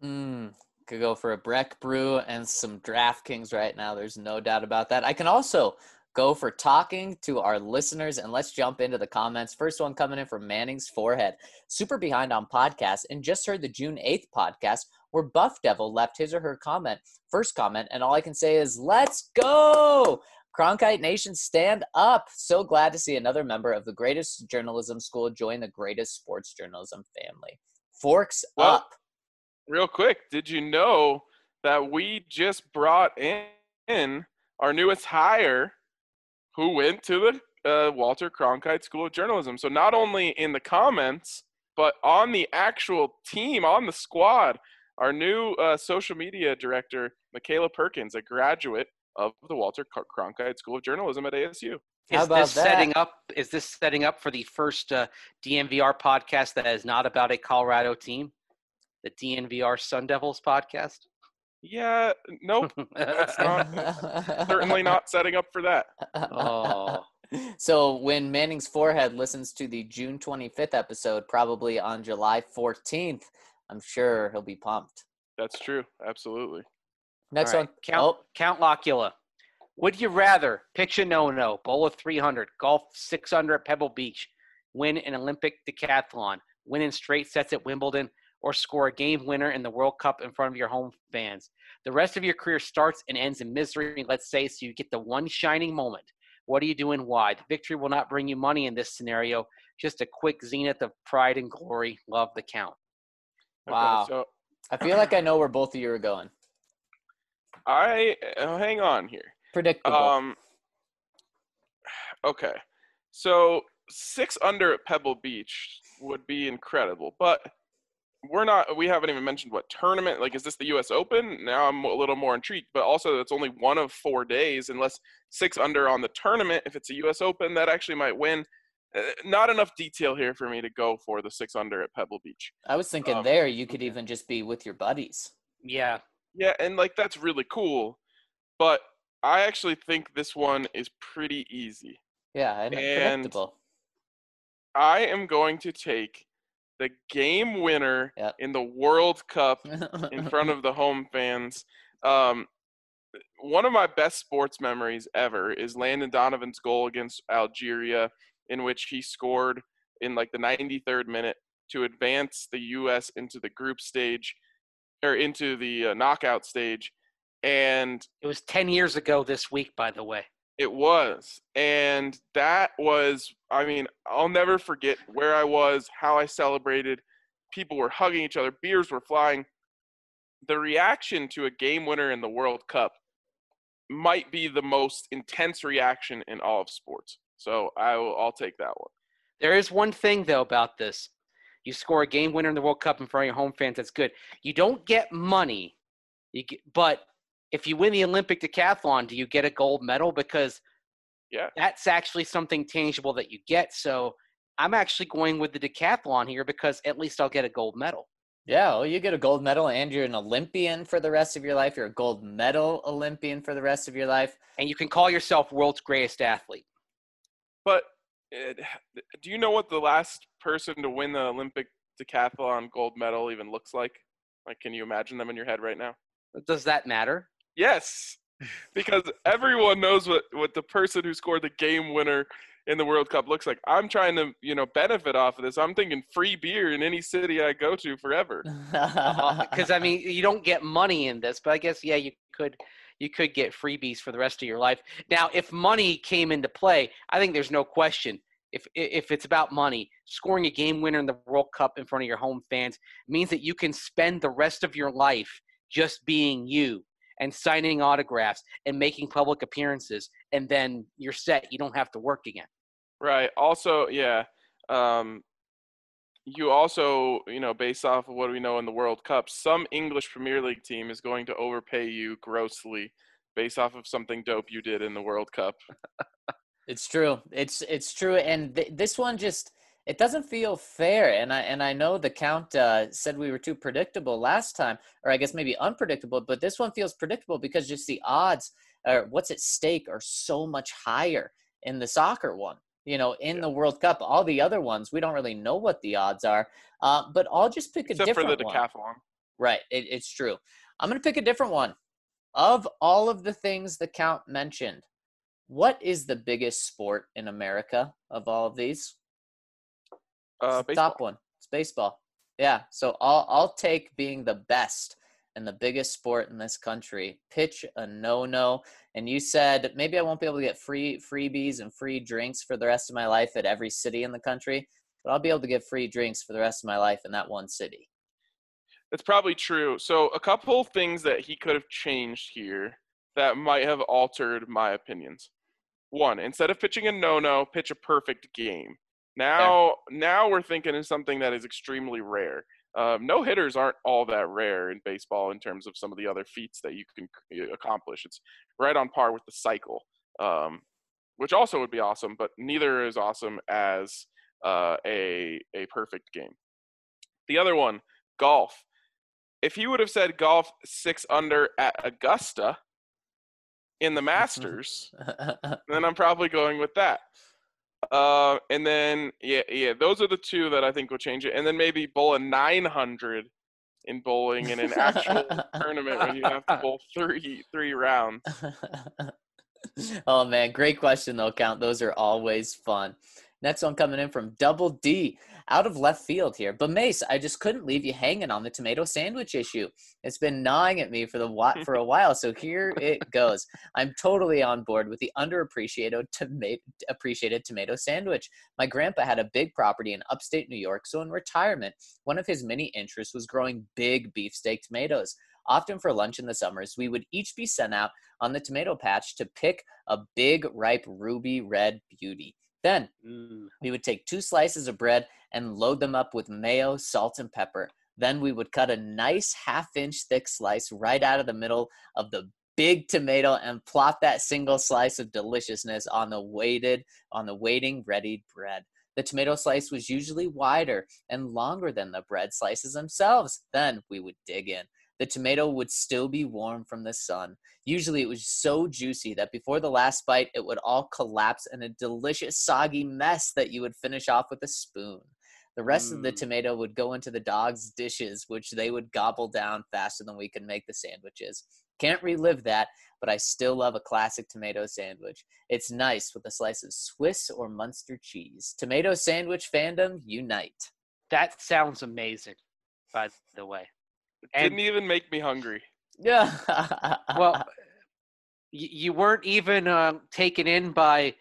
Could go for a Breck brew and some DraftKings right now. There's no doubt about that. I can also go for talking to our listeners, and let's jump into the comments. First one coming in from Manning's Forehead. Super behind on podcasts and just heard the June 8th podcast where Buff Devil left his or her first comment, and all I can say is, let's go! Cronkite Nation, stand up. So glad to see another member of the greatest journalism school join the greatest sports journalism family. Forks up. Real quick, did you know that we just brought in our newest hire who went to the Walter Cronkite School of Journalism? So not only in the comments, but on the actual team, on the squad, our new social media director, Michaela Perkins, a graduate of the Walter Cronkite School of Journalism at ASU. How about that? Is this setting up for the first DNVR podcast that is not about a Colorado team? The DNVR Sun Devils podcast? Yeah, nope. That's certainly not setting up for that. Oh. So when Manning's Forehead listens to the June 25th episode, probably on July 14th, I'm sure he'll be pumped. That's true. Absolutely. Next All right. one. Count Locula. Would you rather pitch a no-no, bowl of 300, golf 600 at Pebble Beach, win an Olympic decathlon, win in straight sets at Wimbledon, or score a game winner in the World Cup in front of your home fans? The rest of your career starts and ends in misery, let's say, so you get the one shining moment. What are you doing? Why? The victory will not bring you money in this scenario, just a quick zenith of pride and glory. Love the count. Wow. Okay, so I feel like I know where both of you are going. hang on here. Predictable. Okay. So 6 under at Pebble Beach would be incredible, but we haven't even mentioned what tournament, like, is this the US Open? Now I'm a little more intrigued, but also it's only one of 4 days, unless 6 under on the tournament, if it's a US Open, that actually might win. Not enough detail here for me to go for the 6 under at Pebble Beach. I was thinking there you could even just be with your buddies. Yeah. Yeah, and like that's really cool, but I actually think this one is pretty easy. Yeah, and And predictable. I am going to take the game winner Yep. in the World Cup in front of the home fans. One of my best sports memories ever is Landon Donovan's goal against Algeria, in which he scored in like the 93rd minute to advance the U.S. into the group stage, or into the knockout stage. And It was 10 years ago this week, by the way. it was. And that was, I mean, I'll never forget where I was, how I celebrated. People were hugging each other, beers were flying. The reaction to a game winner in the World Cup might be the most intense reaction in all of sports. So I'll take that one. There is one thing, though, about this. You score a game winner in the World Cup in front of your home fans, that's good. You don't get money, but if you win the Olympic decathlon, do you get a gold medal? Because that's actually something tangible that you get. So I'm actually going with the decathlon here because at least I'll get a gold medal. Yeah, well, you get a gold medal and you're an Olympian for the rest of your life. You're a gold medal Olympian for the rest of your life. And you can call yourself world's greatest athlete. But do you know what the last person to win the Olympic decathlon gold medal even looks like? Like, can you imagine them in your head right now? Does that matter? Yes, because everyone knows what the person who scored the game winner in the World Cup looks like. I'm trying to, benefit off of this. I'm thinking free beer in any city I go to forever. Because, I mean, you don't get money in this, but I guess, yeah, you could get freebies for the rest of your life. Now, if money came into play, I think there's no question. If it's about money, scoring a game winner in the World Cup in front of your home fans means that you can spend the rest of your life just being you and signing autographs and making public appearances, and then you're set. You don't have to work again. Right. Also, yeah. You also, based off of what we know in the World Cup, some English Premier League team is going to overpay you grossly based off of something dope you did in the World Cup. It's true. It's true. And this one just, it doesn't feel fair. And I know the Count said we were too predictable last time, or I guess maybe unpredictable, but this one feels predictable because just the odds, or what's at stake, are so much higher in the soccer one. In the World Cup, all the other ones, we don't really know what the odds are. But I'll just pick a different one. Except for the decathlon. Right. It's true. I'm going to pick a different one. Of all of the things the Count mentioned, what is the biggest sport in America of all of these? Baseball. Top one. It's baseball. Yeah. So I'll take being the best and the biggest sport in this country. Pitch a no-no. And you said maybe I won't be able to get freebies and free drinks for the rest of my life at every city in the country, but I'll be able to get free drinks for the rest of my life in that one city. That's probably true. So a couple things that he could have changed here that might have altered my opinions. One, instead of pitching a no-no, pitch a perfect game. Now we're thinking of something that is extremely rare. No hitters aren't all that rare in baseball in terms of some of the other feats that you can accomplish. It's right on par with the cycle, which also would be awesome, but neither is awesome as a perfect game. The other one, golf. If he would have said golf 6 under at Augusta in the Masters, then I'm probably going with that. And then, those are the two that I think will change it. And then maybe bowl a 900 in bowling in an actual tournament when you have to bowl three rounds. Oh, man. Great question, though, Count. Those are always fun. Next one coming in from Double D, out of left field here. But Mace, I just couldn't leave you hanging on the tomato sandwich issue. It's been gnawing at me for a while, so here it goes. I'm totally on board with the underappreciated tomato sandwich. My grandpa had a big property in upstate New York, so in retirement, one of his many interests was growing big beefsteak tomatoes. Often for lunch in the summers, we would each be sent out on the tomato patch to pick a big, ripe, ruby red beauty. Then we would take 2 slices of bread and load them up with mayo, salt, and pepper. Then we would cut a nice 1/2-inch thick slice right out of the middle of the big tomato and plop that single slice of deliciousness on the waiting ready bread. The tomato slice was usually wider and longer than the bread slices themselves. Then we would dig in. The tomato would still be warm from the sun. Usually it was so juicy that before the last bite, it would all collapse in a delicious soggy mess that you would finish off with a spoon. The rest of the tomato would go into the dogs' dishes, which they would gobble down faster than we could make the sandwiches. Can't relive that, but I still love a classic tomato sandwich. It's nice with a slice of Swiss or Munster cheese. Tomato sandwich fandom, unite. That sounds amazing, by the way. Didn't even make me hungry. Yeah. Well, you weren't even taken in by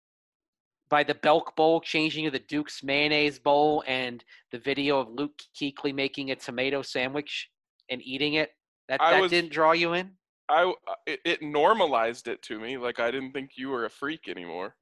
the Belk Bowl changing to the Duke's Mayonnaise Bowl and the video of Luke Kuechly making a tomato sandwich and eating it? That didn't draw you in? It normalized it to me. Like, I didn't think you were a freak anymore.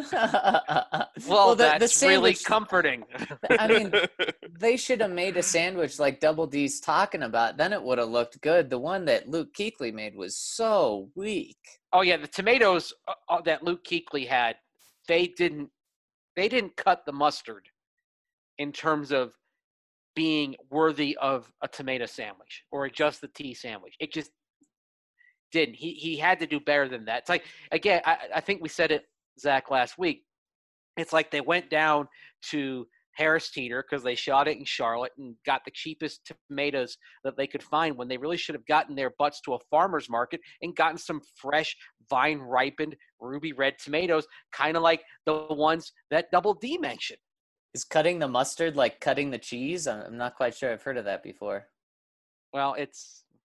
Well, that's really comforting. I mean, they should have made a sandwich like Double D's talking about. Then it would have looked good. The one that Luke Kuechly made was so weak. Oh, yeah, the tomatoes that Luke Kuechly had, they didn't cut the mustard in terms of being worthy of a tomato sandwich or just the tea sandwich. It just didn't. He had to do better than that. It's like, again, I think we said it, Zach, last week. It's like they went down to Harris Teeter because they shot it in Charlotte and got the cheapest tomatoes that they could find when they really should have gotten their butts to a farmer's market and gotten some fresh, vine-ripened, ruby red tomatoes, kind of like the ones that Double D mentioned. Is cutting the mustard like cutting the cheese? I'm not quite sure. I've heard of that before. Well, it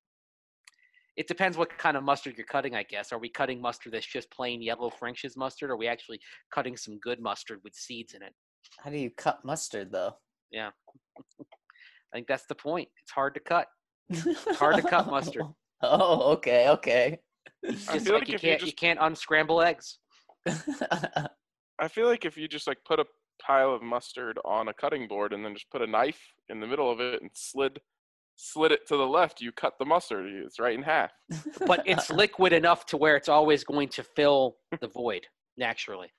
depends what kind of mustard you're cutting, I guess. Are we cutting mustard that's just plain yellow French's mustard, or are we actually cutting some good mustard with seeds in it? How do you cut mustard, though? Yeah. I think that's the point. It's hard to cut. It's hard to cut mustard. Oh, okay. Just like you can't unscramble eggs. I feel like if you just like put a pile of mustard on a cutting board and then just put a knife in the middle of it and slid it to the left, you cut the mustard. It's right in half. But it's liquid enough to where it's always going to fill the void naturally.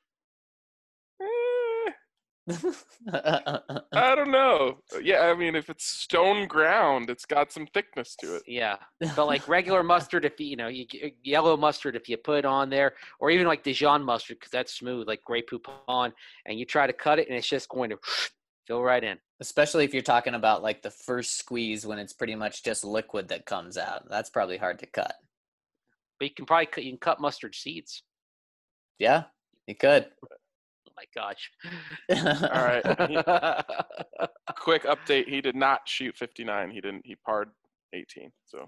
I don't know. Yeah, I mean, if it's stone ground, it's got some thickness to it. Yeah, but like regular mustard, if yellow mustard, if you put it on there, or even like Dijon mustard, because that's smooth, like Grey Poupon, and you try to cut it, and it's just going to fill right in. Especially if you're talking about like the first squeeze when it's pretty much just liquid that comes out. That's probably hard to cut. But you can cut mustard seeds. Yeah, you could. Oh my gosh. All right. Quick update. He did not shoot 59. He parred 18. So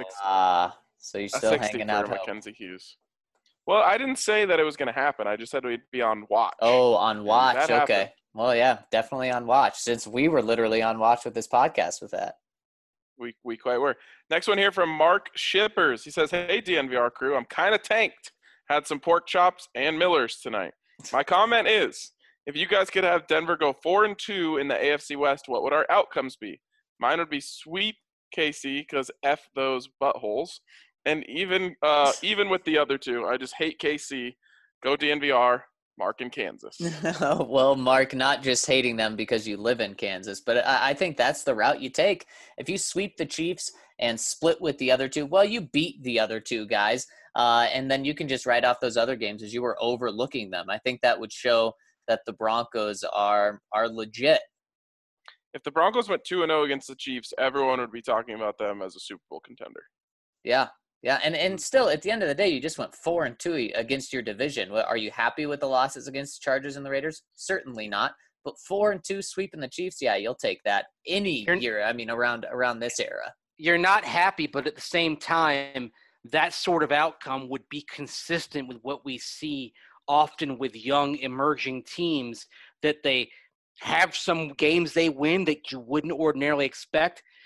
so you're still hanging out for Mackenzie Hughes. Well, I didn't say that it was going to happen. I just said we'd be on watch. Oh, on watch. Okay. Happened. Well, yeah, definitely on watch, since we were literally on watch with this podcast with that. We quite were. Next one here from Mark Shippers. He says, "Hey, DNVR crew, I'm kind of tanked. Had some pork chops and Millers tonight. My comment is, if you guys could have Denver go 4-2 in the AFC West, what would our outcomes be? Mine would be sweep KC because F those buttholes. And even with the other two, I just hate KC. Go DNVR, Mark in Kansas." Well, Mark, not just hating them because you live in Kansas, but I think that's the route you take. If you sweep the Chiefs and split with the other two, well, you beat the other two guys. And then you can just write off those other games as you were overlooking them. I think that would show that the Broncos are legit. If the Broncos went 2-0 against the Chiefs, everyone would be talking about them as a Super Bowl contender. Yeah. And still, at the end of the day, you just went 4-2 against your division. Are you happy with the losses against the Chargers and the Raiders? Certainly not. But 4-2 sweeping the Chiefs, yeah, you'll take that any year. I mean, around this era. You're not happy, but at the same time, that sort of outcome would be consistent with what we see often with young emerging teams, that they have some games they win that you wouldn't ordinarily expect,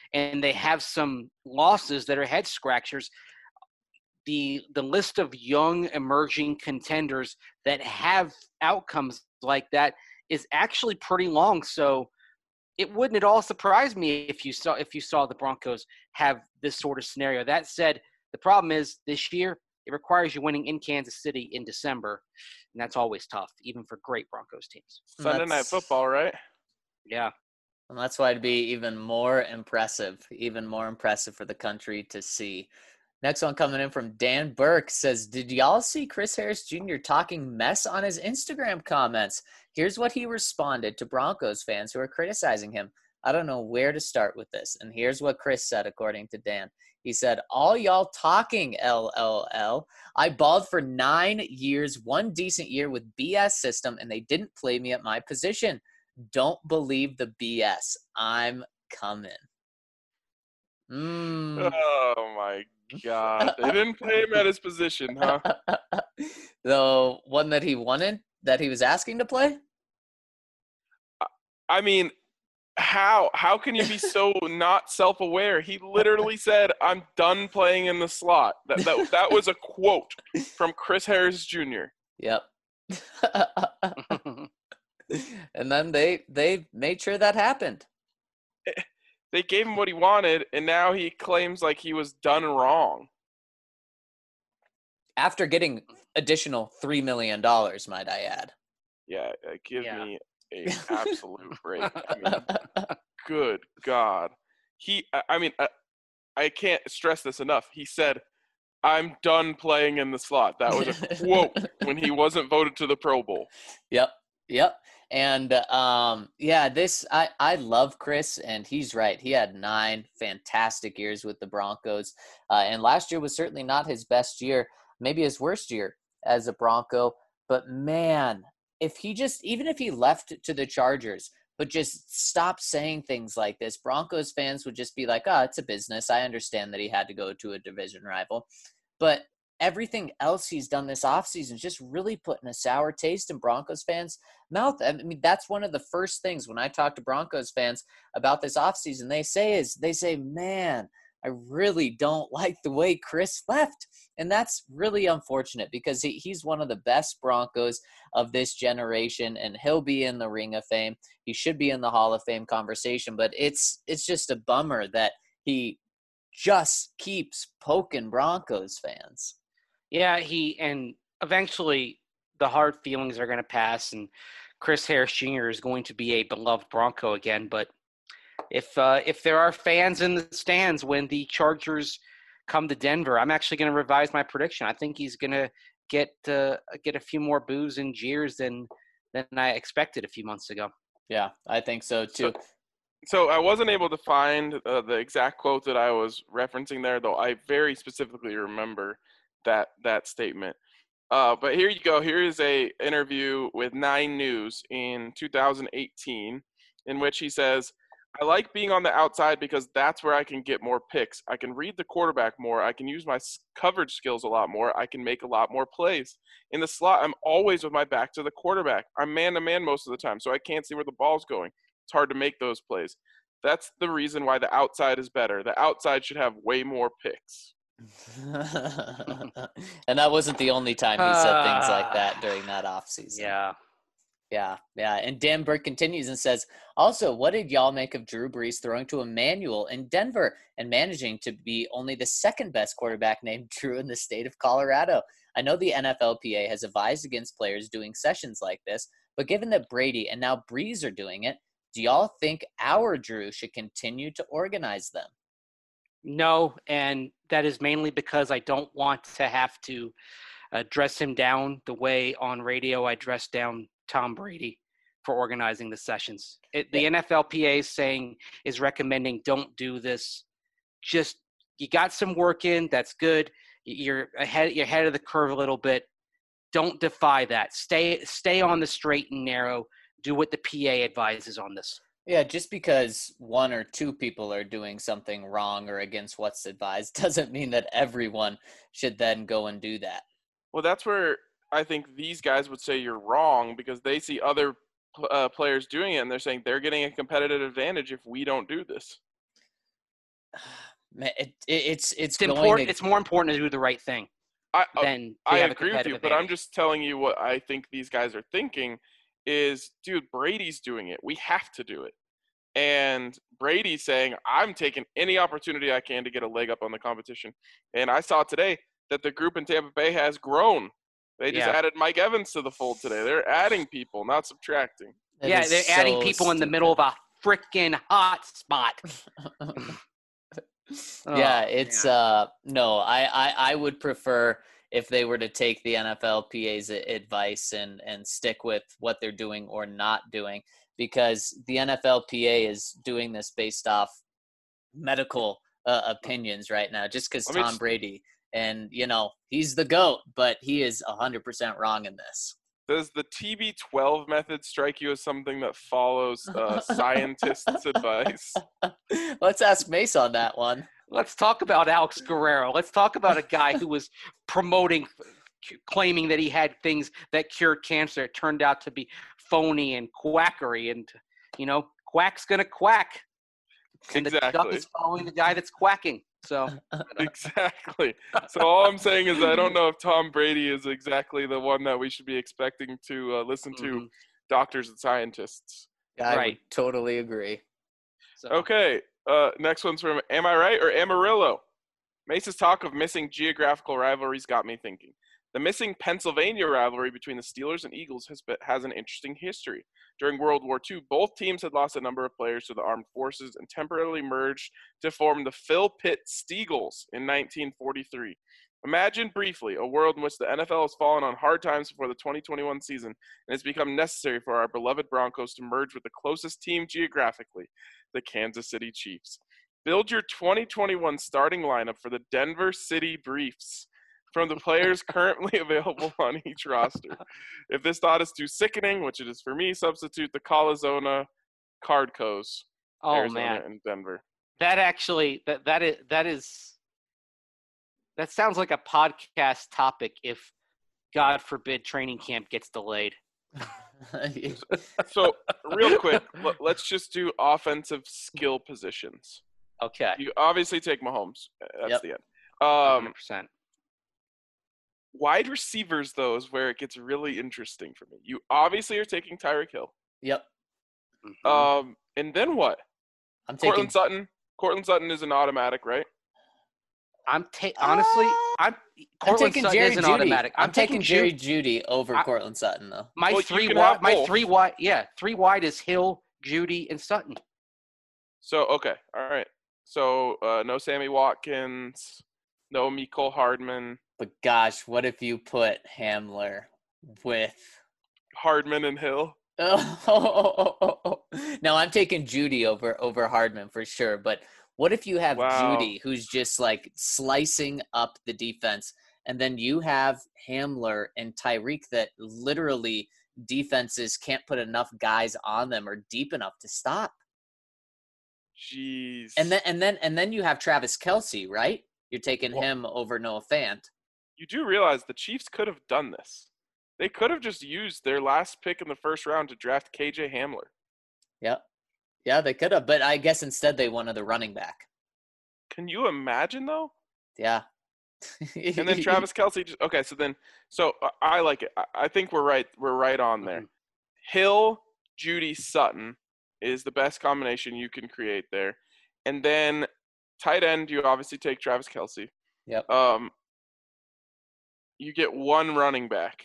and they have some losses that are head scratchers, the list of young emerging contenders that have outcomes like that is actually pretty long. So it wouldn't at all surprise me if you saw the Broncos have this sort of scenario. That said, the problem is this year it requires you winning in Kansas City in December, and that's always tough, even for great Broncos teams. Sunday Night Football, right? Yeah. And that's why it'd be even more impressive for the country to see. Next one coming in from Dan Burke says, did y'all see Chris Harris Jr. talking mess on his Instagram comments? Here's what he responded to Broncos fans who are criticizing him. I don't know where to start with this. And here's what Chris said, according to Dan. He said, all y'all talking, LLL. I balled for 9 years, one decent year with BS system, and they didn't play me at my position. Don't believe the BS. I'm coming. Oh, my God. They didn't play him at his position, huh? The one that he wanted, that he was asking to play? I mean, how can you be so not self-aware? He literally said, I'm done playing in the slot. That was a quote from Chris Harris Jr. Yep. And then they made sure that happened. They gave him what he wanted, and now he claims like he was done wrong. After getting additional $3 million, might I add. Yeah, give me an absolute break. I mean, good God. I can't stress this enough. He said, I'm done playing in the slot. That was a quote when he wasn't voted to the Pro Bowl. Yep. And I love Chris, and he's right. He had 9 fantastic years with the Broncos, and last year was certainly not his best year, maybe his worst year as a Bronco. But man, even if he left to the Chargers, but just stop saying things like this, Broncos fans would just be like, oh, it's a business. I understand that he had to go to a division rival, but everything else he's done this offseason is just really putting a sour taste in Broncos fans' mouth. I mean, that's one of the first things when I talk to Broncos fans about this offseason, they say, man, I really don't like the way Chris left. And that's really unfortunate because he's one of the best Broncos of this generation, and he'll be in the Ring of Fame. He should be in the Hall of Fame conversation, but it's just a bummer that he just keeps poking Broncos fans. Yeah, and eventually the hard feelings are going to pass, and Chris Harris Jr. is going to be a beloved Bronco again. But if there are fans in the stands when the Chargers come to Denver, I'm actually going to revise my prediction. I think he's going to get a few more boos and jeers than I expected a few months ago. Yeah, I think so too. So I wasn't able to find the exact quote that I was referencing there, though I very specifically remember that statement. But here you go. Here is a interview with 9 News in 2018 in which he says, I like being on the outside because that's where I can get more picks. I can read the quarterback more. I can use my coverage skills a lot more. I can make a lot more plays. In the slot, I'm always with my back to the quarterback. I'm man-to-man most of the time, so I can't see where the ball's going. It's hard to make those plays. That's the reason why the outside is better. The outside should have way more picks. And that wasn't the only time he said things like that during that offseason. Yeah. And Dan Burke continues and says, also, what did y'all make of Drew Brees throwing to Emmanuel in Denver and managing to be only the second best quarterback named Drew in the state of Colorado? I know the NFLPA has advised against players doing sessions like this, but given that Brady and now Brees are doing it, do y'all think our Drew should continue to organize them? No, and that is mainly because I don't want to have to dress him down the way on radio I dressed down Tom Brady for organizing the sessions. The NFLPA is recommending don't do this. Just you got some work in, that's good. You're ahead of the curve a little bit. Don't defy that. Stay on the straight and narrow. Do what the PA advises on this. Yeah, just because 1 or 2 people are doing something wrong or against what's advised doesn't mean that everyone should then go and do that. Well, that's where I think these guys would say you're wrong because they see other players doing it and they're saying they're getting a competitive advantage if we don't do this. Man, it's It's going important. to, It's more important to do the right thing than to I have a agree with you, competitive but I'm advantage. just telling you what I think these guys are thinking is, dude, Brady's doing it. We have to do it. And Brady's saying, I'm taking any opportunity I can to get a leg up on the competition. And I saw today that the group in Tampa Bay has grown. They just added Mike Evans to the fold today. They're adding people, not subtracting. that Yeah, is they're adding so people in the middle of a freaking hot spot. Yeah, Oh, it's man. no, I would prefer if they were to take the NFLPA's advice and stick with what they're doing or not doing, because the NFLPA is doing this based off medical opinions right now, just because Let me Tom just, Brady, and he's the GOAT, but he is 100% wrong in this. does the TB12 method strike you as something that follows scientists' advice? Let's ask Mace on that one. Let's talk about Alex Guerrero. Let's talk about a guy who was claiming that he had things that cured cancer. It turned out to be phony and quackery. And, quack's going to quack. And the duck Exactly. is following the guy that's quacking. So Exactly. So all I'm saying is I don't know if Tom Brady is exactly the one that we should be expecting to listen to doctors and scientists. I Right. would totally agree. So. Okay. Next one's from Am I Right or Amarillo? Mace's talk of missing geographical rivalries got me thinking. The missing Pennsylvania rivalry between the Steelers and Eagles has an interesting history. During World War II, both teams had lost a number of players to the armed forces and temporarily merged to form the Phil Pitt Steagles in 1943. Imagine briefly a world in which the NFL has fallen on hard times before the 2021 season and it's become necessary for our beloved Broncos to merge with the closest team geographically, the Kansas City Chiefs. Build your 2021 starting lineup for the Denver City Briefs from the players currently available on each roster. If this thought is too sickening, which it is for me, substitute the Calizona Cardcos, Arizona man. and Denver. That actually that sounds like a podcast topic if, God forbid, training camp gets delayed. So real quick, let's just do offensive skill positions. Okay. You obviously take Mahomes. That's the end. 100%. Wide receivers, though, is where it gets really interesting for me. You obviously are taking Tyreek Hill. Yep. And then what? I'm taking Courtland Sutton is an automatic, right? Honestly, I'm taking Sutton Jerry is an Jeudy. automatic. I'm taking Jerry Jeudy over Courtland Sutton, though. Three wide is Hill, Jeudy, and Sutton. So okay, all right. So no Sammy Watkins, no Mecole Hardman. But gosh, what if you put Hamler with Hardman and Hill? Oh, no, I'm taking Jeudy over Hardman for sure. But what if you have Jeudy, who's just like slicing up the defense, and then you have Hamler and Tyreek that literally defenses can't put enough guys on them or deep enough to stop. Jeez. And then you have Travis Kelce, right? You're taking him over Noah Fant. You do realize the Chiefs could have done this. They could have just used their last pick in the first round to draft KJ Hamler. Yep. Yeah, they could have, but I guess instead they wanted the running back. Can you imagine, though? Yeah. And then Travis Kelce. So I like it. I think we're right. We're right on there. Hill, Jeudy, Sutton is the best combination you can create there. And then tight end, you obviously take Travis Kelce. Yep. You get one running back.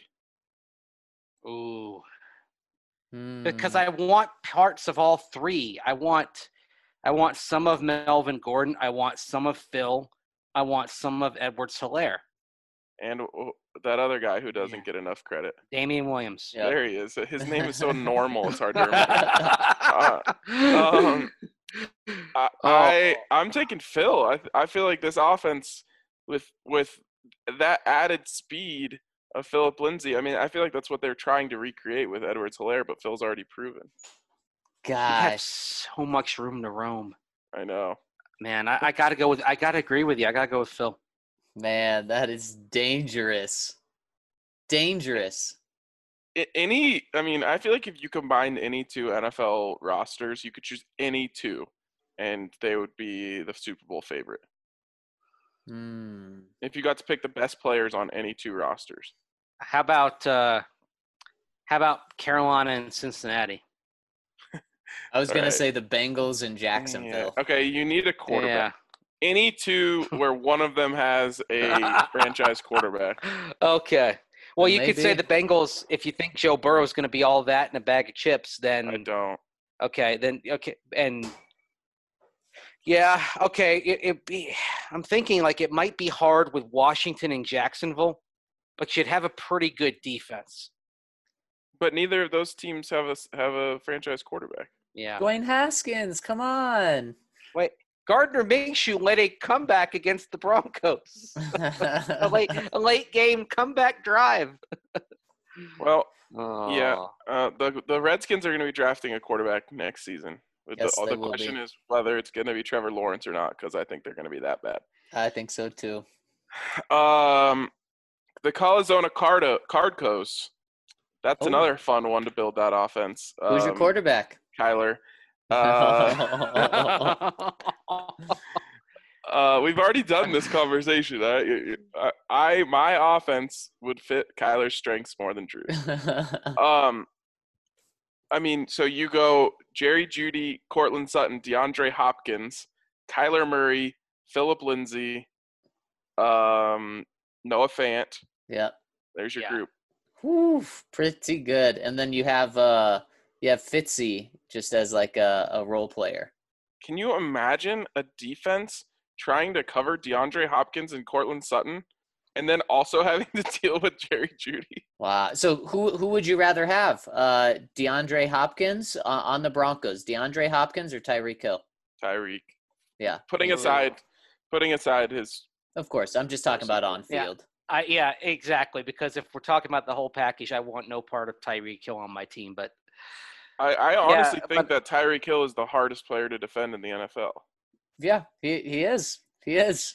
Ooh. Because I want parts of all three. I want some of Melvin Gordon. I want some of Phil. I want some of Edwards-Helaire. And that other guy who doesn't get enough credit. Damian Williams. Yep. There he is. His name is so normal, it's hard to remember. I'm taking Phil. I feel like this offense with that added speed of Philip Lindsay, I mean, I feel like that's what they're trying to recreate with Edwards-Helaire, but Phil's already proven. Gosh. You have so much room to roam. I know. Man, I gotta agree with you. I gotta go with Phil. Man, that is dangerous. Dangerous. I feel like if you combined any two NFL rosters, you could choose any two. and they would be the Super Bowl favorite. Hmm. If you got to pick the best players on any two rosters. How about Carolina and Cincinnati? I was going Alright. to say the Bengals and Jacksonville. Yeah. Okay, you need a quarterback. Yeah. Any two where one of them has a franchise quarterback. Okay. Well, you could say Maybe. the Bengals. If you think Joe Burrow is going to be all that in a bag of chips, I then don't. okay, and yeah, okay. I'm thinking like it might be hard with Washington and Jacksonville, but you'd have a pretty good defense. But neither of those teams have a franchise quarterback. Yeah. Dwayne Haskins, come on. Wait, Gardner Minshew led a comeback against the Broncos. a late game comeback drive. Well, Oh. yeah. The Redskins are going to be drafting a quarterback next season. Yes, they The will question be. is whether it's going to be Trevor Lawrence or not, because I think they're going to be that bad. I think so too. The Calizona Cardcos. That's Oh. another fun one to build that offense. Who's your quarterback? Kyler. We've already done this conversation. My offense would fit Kyler's strengths more than Drew's. I mean, so you go Jerry Jeudy, Cortland Sutton, DeAndre Hopkins, Kyler Murray, Phillip Lindsay, Noah Fant. Yeah. There's your Yeah. group. Whew, pretty good. And then you have Fitzy just as like a role player. Can you imagine a defense trying to cover DeAndre Hopkins and Cortland Sutton, and then also having to deal with Jerry Jeudy? Wow. So who would you rather have? DeAndre Hopkins on the Broncos. DeAndre Hopkins or Tyreek Hill? Tyreek. Yeah. Putting aside his. Of course. I'm just talking about on Yeah. field. Yeah, exactly. Because if we're talking about the whole package, I want no part of Tyreek Hill on my team. But I honestly think but- that Tyreek Hill is the hardest player to defend in the NFL. Yeah, he is. He is.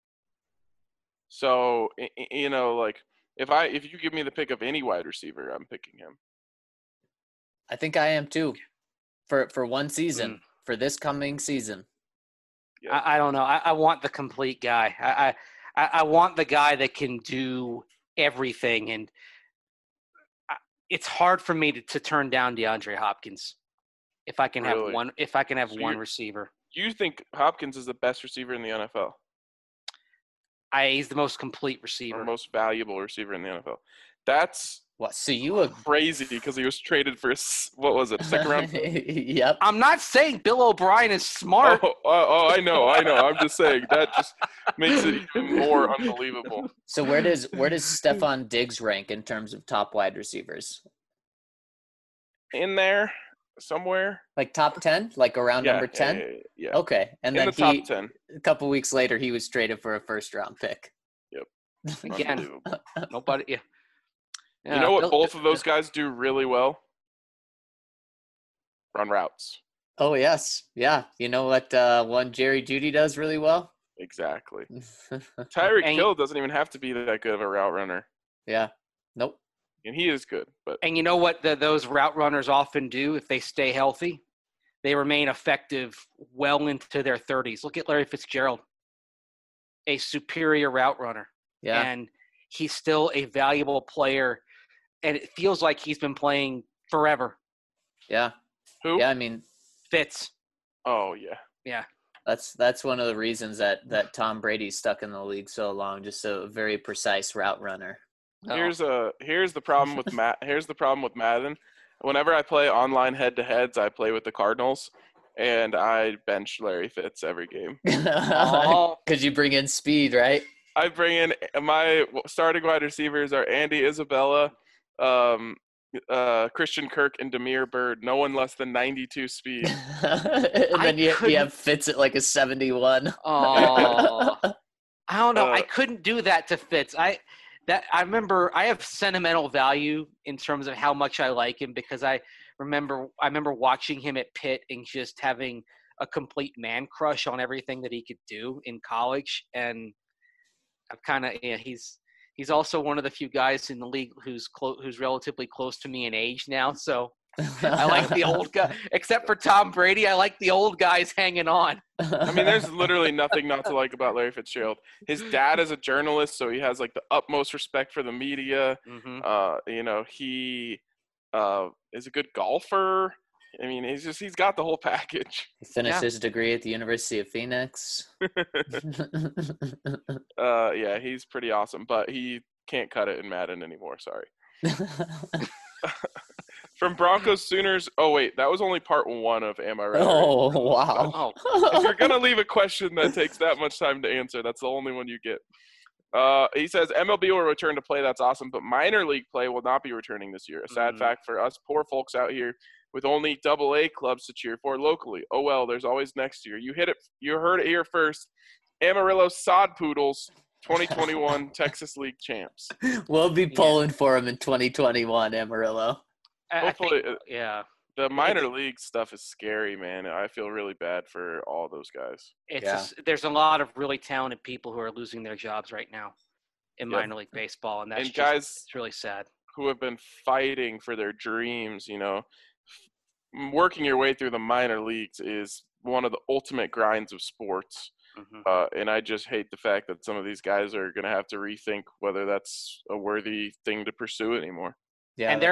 So like if you give me the pick of any wide receiver, I'm picking him. I think I am too. For one season, Mm. for this coming season. Yeah. I don't know. I want the complete guy. I want the guy that can do everything, and it's hard for me to turn down DeAndre Hopkins if I can Really? have one. If I can have So one you're- receiver, You think Hopkins is the best receiver in the NFL, he's the most complete or receiver. most valuable receiver in the NFL? That's What? So you agree? crazy because he was traded for what was it, second round? Yep. I'm not saying Bill O'Brien is smart. Oh, I know. I'm just saying that just makes it even more unbelievable. So where does Stephon Diggs rank in terms of top wide receivers? In there somewhere. Like top 10? Like around number 10? Yeah. Okay. And In then the top 10. a couple weeks later, he was traded for a first round pick. Again, Unbelievable. nobody. Yeah. You know what Bill- both of those guys do really well? Run routes. Oh, yes. Yeah. You know what one Jerry Jeudy does really well? Exactly. Tyreek And- Hill doesn't even have to be that good of a route runner. Yeah. Nope. And he is good, but And you know what those route runners often do if they stay healthy? They remain effective well into their 30s. Look at Larry Fitzgerald, a superior route runner. Yeah. And he's still a valuable player, and it feels like he's been playing forever. Yeah. who? Yeah. I mean, Fitz. Oh, yeah. Yeah. that's one of the reasons that Tom Brady's stuck in the league so long. Just a very precise route runner. Oh. Here's the problem with Here's the problem with Madden. Whenever I play online head-to-heads, I play with the Cardinals, and I bench Larry Fitz every game. Oh. Because you bring in speed, right? I bring in my starting wide receivers are Andy Isabella, Christian Kirk, and Damiere Byrd. No one less than 92 speed. And then you have Fitz at like a 71. Oh. I don't know. I Uh, couldn't do that to Fitz. I remember I have sentimental value in terms of how much I like him because I remember watching him at Pitt and just having a complete man crush on everything that he could do in college. And I've kind of he's also one of the few guys in the league who's relatively close to me in age now. So I like the old guy. Except for Tom Brady, I like the old guys hanging on. I mean, there's literally nothing not to like about Larry Fitzgerald. His dad is a journalist, so he has like the utmost respect for the media. He is a good golfer. I mean, he's got the whole package. He finished his degree at the University of Phoenix. Yeah, he's pretty awesome, but he can't cut it in Madden anymore. Sorry. From Broncos Sooners. Oh wait, that was only part 1 of Am I Right? Oh wow! If you're gonna leave a question that takes that much time to answer, that's the only one you get. He says MLB will return to play. That's awesome, but minor league play will not be returning this year. A sad fact for us poor folks out here with only AA clubs to cheer for locally. Oh well, there's always next year. You heard it here first. Amarillo Sod Poodles, 2021 Texas League champs. We'll be pulling for him in 2021, Amarillo. Hopefully, the minor league stuff is scary, man. I feel really bad for all those guys. There's a lot of really talented people who are losing their jobs right now in minor league baseball, and it's really sad. Who have been fighting for their dreams, working your way through the minor leagues is one of the ultimate grinds of sports. And I just hate the fact that some of these guys are going to have to rethink whether that's a worthy thing to pursue anymore. Yeah, and there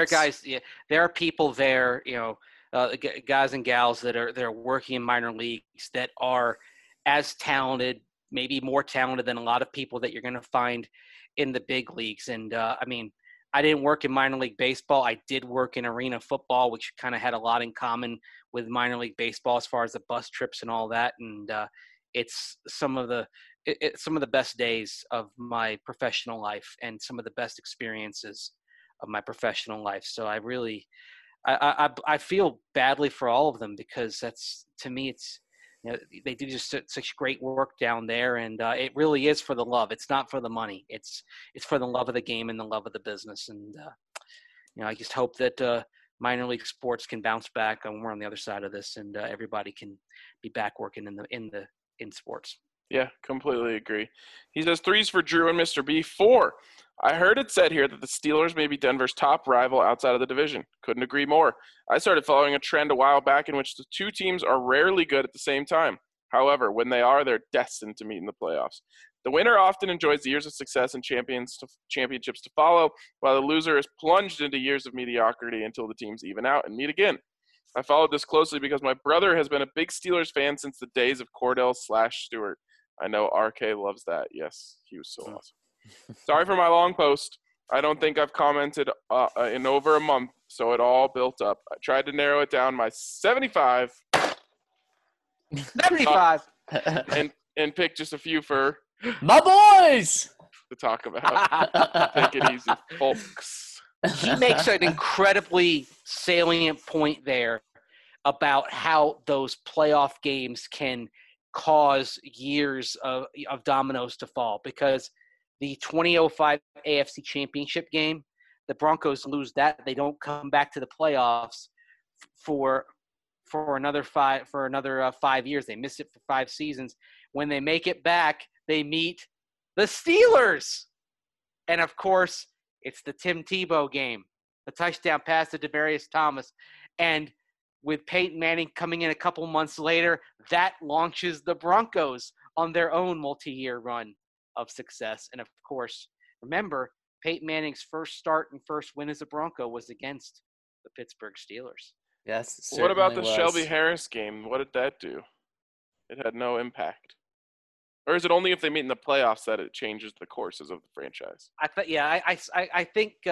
are people there, guys and gals that are working in minor leagues that are as talented, maybe more talented than a lot of people that you're going to find in the big leagues. And I mean, I didn't work in minor league baseball. I did work in arena football, which kind of had a lot in common with minor league baseball as far as the bus trips and all that. And it's some of the best days of my professional life and some of the best experiences of my professional life. So I really, I feel badly for all of them because that's, to me, it's, they do just such great work down there, and it really is for the love. It's not for the money. It's for the love of the game and the love of the business. And I just hope that minor league sports can bounce back, and we're on the other side of this, and everybody can be back working in sports. Yeah, completely agree. He says 3s for Drew and Mr. B. 4. I heard it said here that the Steelers may be Denver's top rival outside of the division. Couldn't agree more. I started following a trend a while back in which the two teams are rarely good at the same time. However, when they are, they're destined to meet in the playoffs. The winner often enjoys years of success and championships to follow, while the loser is plunged into years of mediocrity until the teams even out and meet again. I followed this closely because my brother has been a big Steelers fan since the days of Cordell/Stewart. I know RK loves that. Yes, he was so awesome. Sorry for my long post. I don't think I've commented in over a month, so it all built up. I tried to narrow it down my 75. 75. And pick just a few for my boys to talk about. Take it easy, folks. He makes an incredibly salient point there about how those playoff games can cause years of dominoes to fall, because the 2005 AFC Championship game, the Broncos lose that. They don't come back to the playoffs for another 5 years. They miss it for 5 seasons. When they make it back, they meet the Steelers. And of course, it's the Tim Tebow game, the touchdown pass to Demaryius Thomas. And with Peyton Manning coming in a couple months later, that launches the Broncos on their own multi-year run of success. And of course, remember, Peyton Manning's first start and first win as a Bronco was against the Pittsburgh Steelers. Yes. What about the Shelby Harris game? What did that do? It had no impact. Or is it only if they meet in the playoffs that it changes the courses of the franchise? I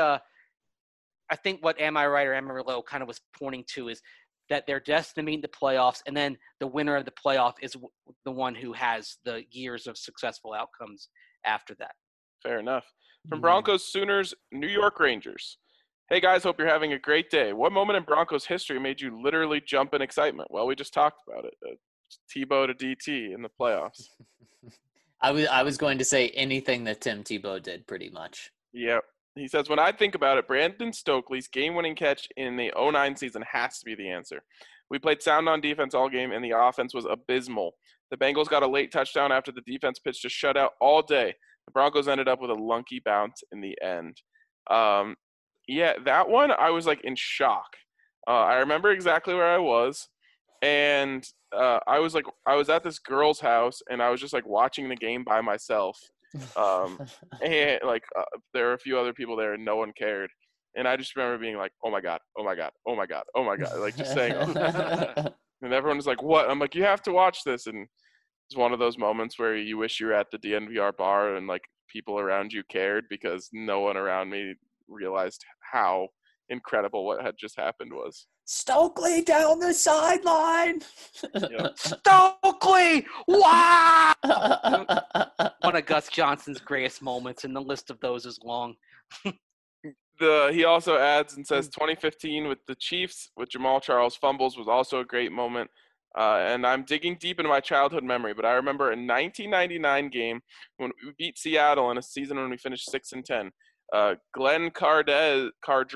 think what Am I Right or Amarillo kind of was pointing to is that they're destined to meet in the playoffs, and then the winner of the playoff is the one who has the years of successful outcomes after that. Fair enough. From Broncos, Sooners, New York Rangers. Hey, guys, hope you're having a great day. What moment in Broncos history made you literally jump in excitement? Well, we just talked about it. Tebow to DT in the playoffs. I was going to say anything that Tim Tebow did, pretty much. Yep. He says, when I think about it, Brandon Stokely's game-winning catch in the 2009 season has to be the answer. We played sound on defense all game, and the offense was abysmal. The Bengals got a late touchdown after the defense pitched a shutout all day. The Broncos ended up with a lunky bounce in the end. Yeah, that one, I was, in shock. I remember exactly where I was, and I was at this girl's house, and I was just like watching the game by myself. And there were a few other people there, and no one cared. And I just remember being like, "Oh my god, oh my god, oh my god, oh my god!" Like just saying, and everyone was like, "What?" I'm like, "You have to watch this." And it's one of those moments where you wish you were at the DNVR bar and like people around you cared, because no one around me realized how incredible what had just happened was. Stokely down the sideline. Yep. Stokely! Wow! One of Gus Johnson's greatest moments, and the list of those is long. He also adds and says 2015 with the Chiefs with Jamal Charles fumbles was also a great moment. And I'm digging deep into my childhood memory, but I remember a 1999 game when we beat Seattle in a season when we finished 6-10. Glenn Cardrez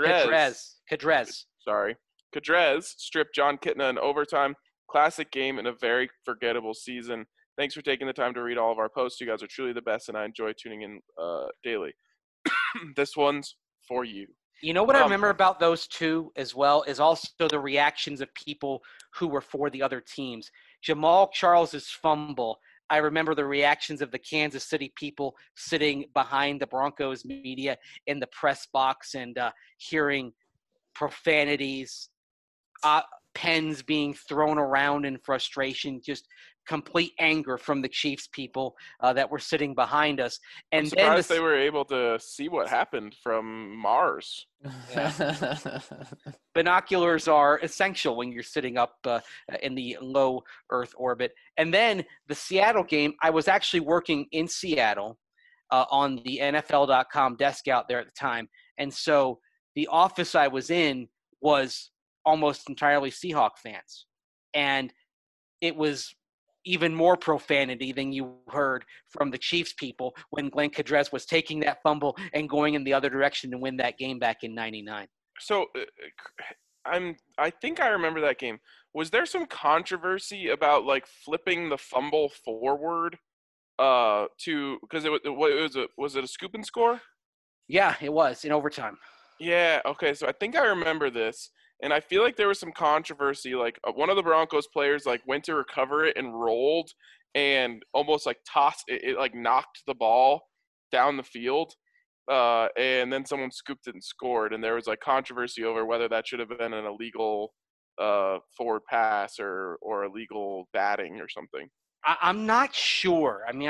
stripped John Kitna in overtime. Classic game and a very forgettable season. Thanks for taking the time to read all of our posts. You guys are truly the best, and I enjoy tuning in daily. This one's for you. You know what I remember about those two as well is also the reactions of people who were for the other teams. Jamal Charles's fumble, I remember the reactions of the Kansas City people sitting behind the Broncos media in the press box and hearing profanities, pens being thrown around in frustration, just complete anger from the Chiefs people that were sitting behind us. And I'm surprised they were able to see what happened from Mars. Yeah. Binoculars are essential when you're sitting up in the low Earth orbit. And then the Seattle game, I was actually working in Seattle on the NFL.com desk out there at the time. And so the office I was in was almost entirely Seahawk fans. And it was even more profanity than you heard from the Chiefs people when Glenn Cardrez was taking that fumble and going in the other direction to win that game back in '99. So I think I remember that game. Was there some controversy about like flipping the fumble forward because was it a scoop and score? Yeah, it was in overtime. Yeah, okay. So I think I remember this. And I feel like there was some controversy. Like one of the Broncos players like went to recover it and rolled and almost like tossed it, like knocked the ball down the field. And then someone scooped it and scored. And there was like controversy over whether that should have been an illegal forward pass or illegal batting or something. I'm not sure. I mean,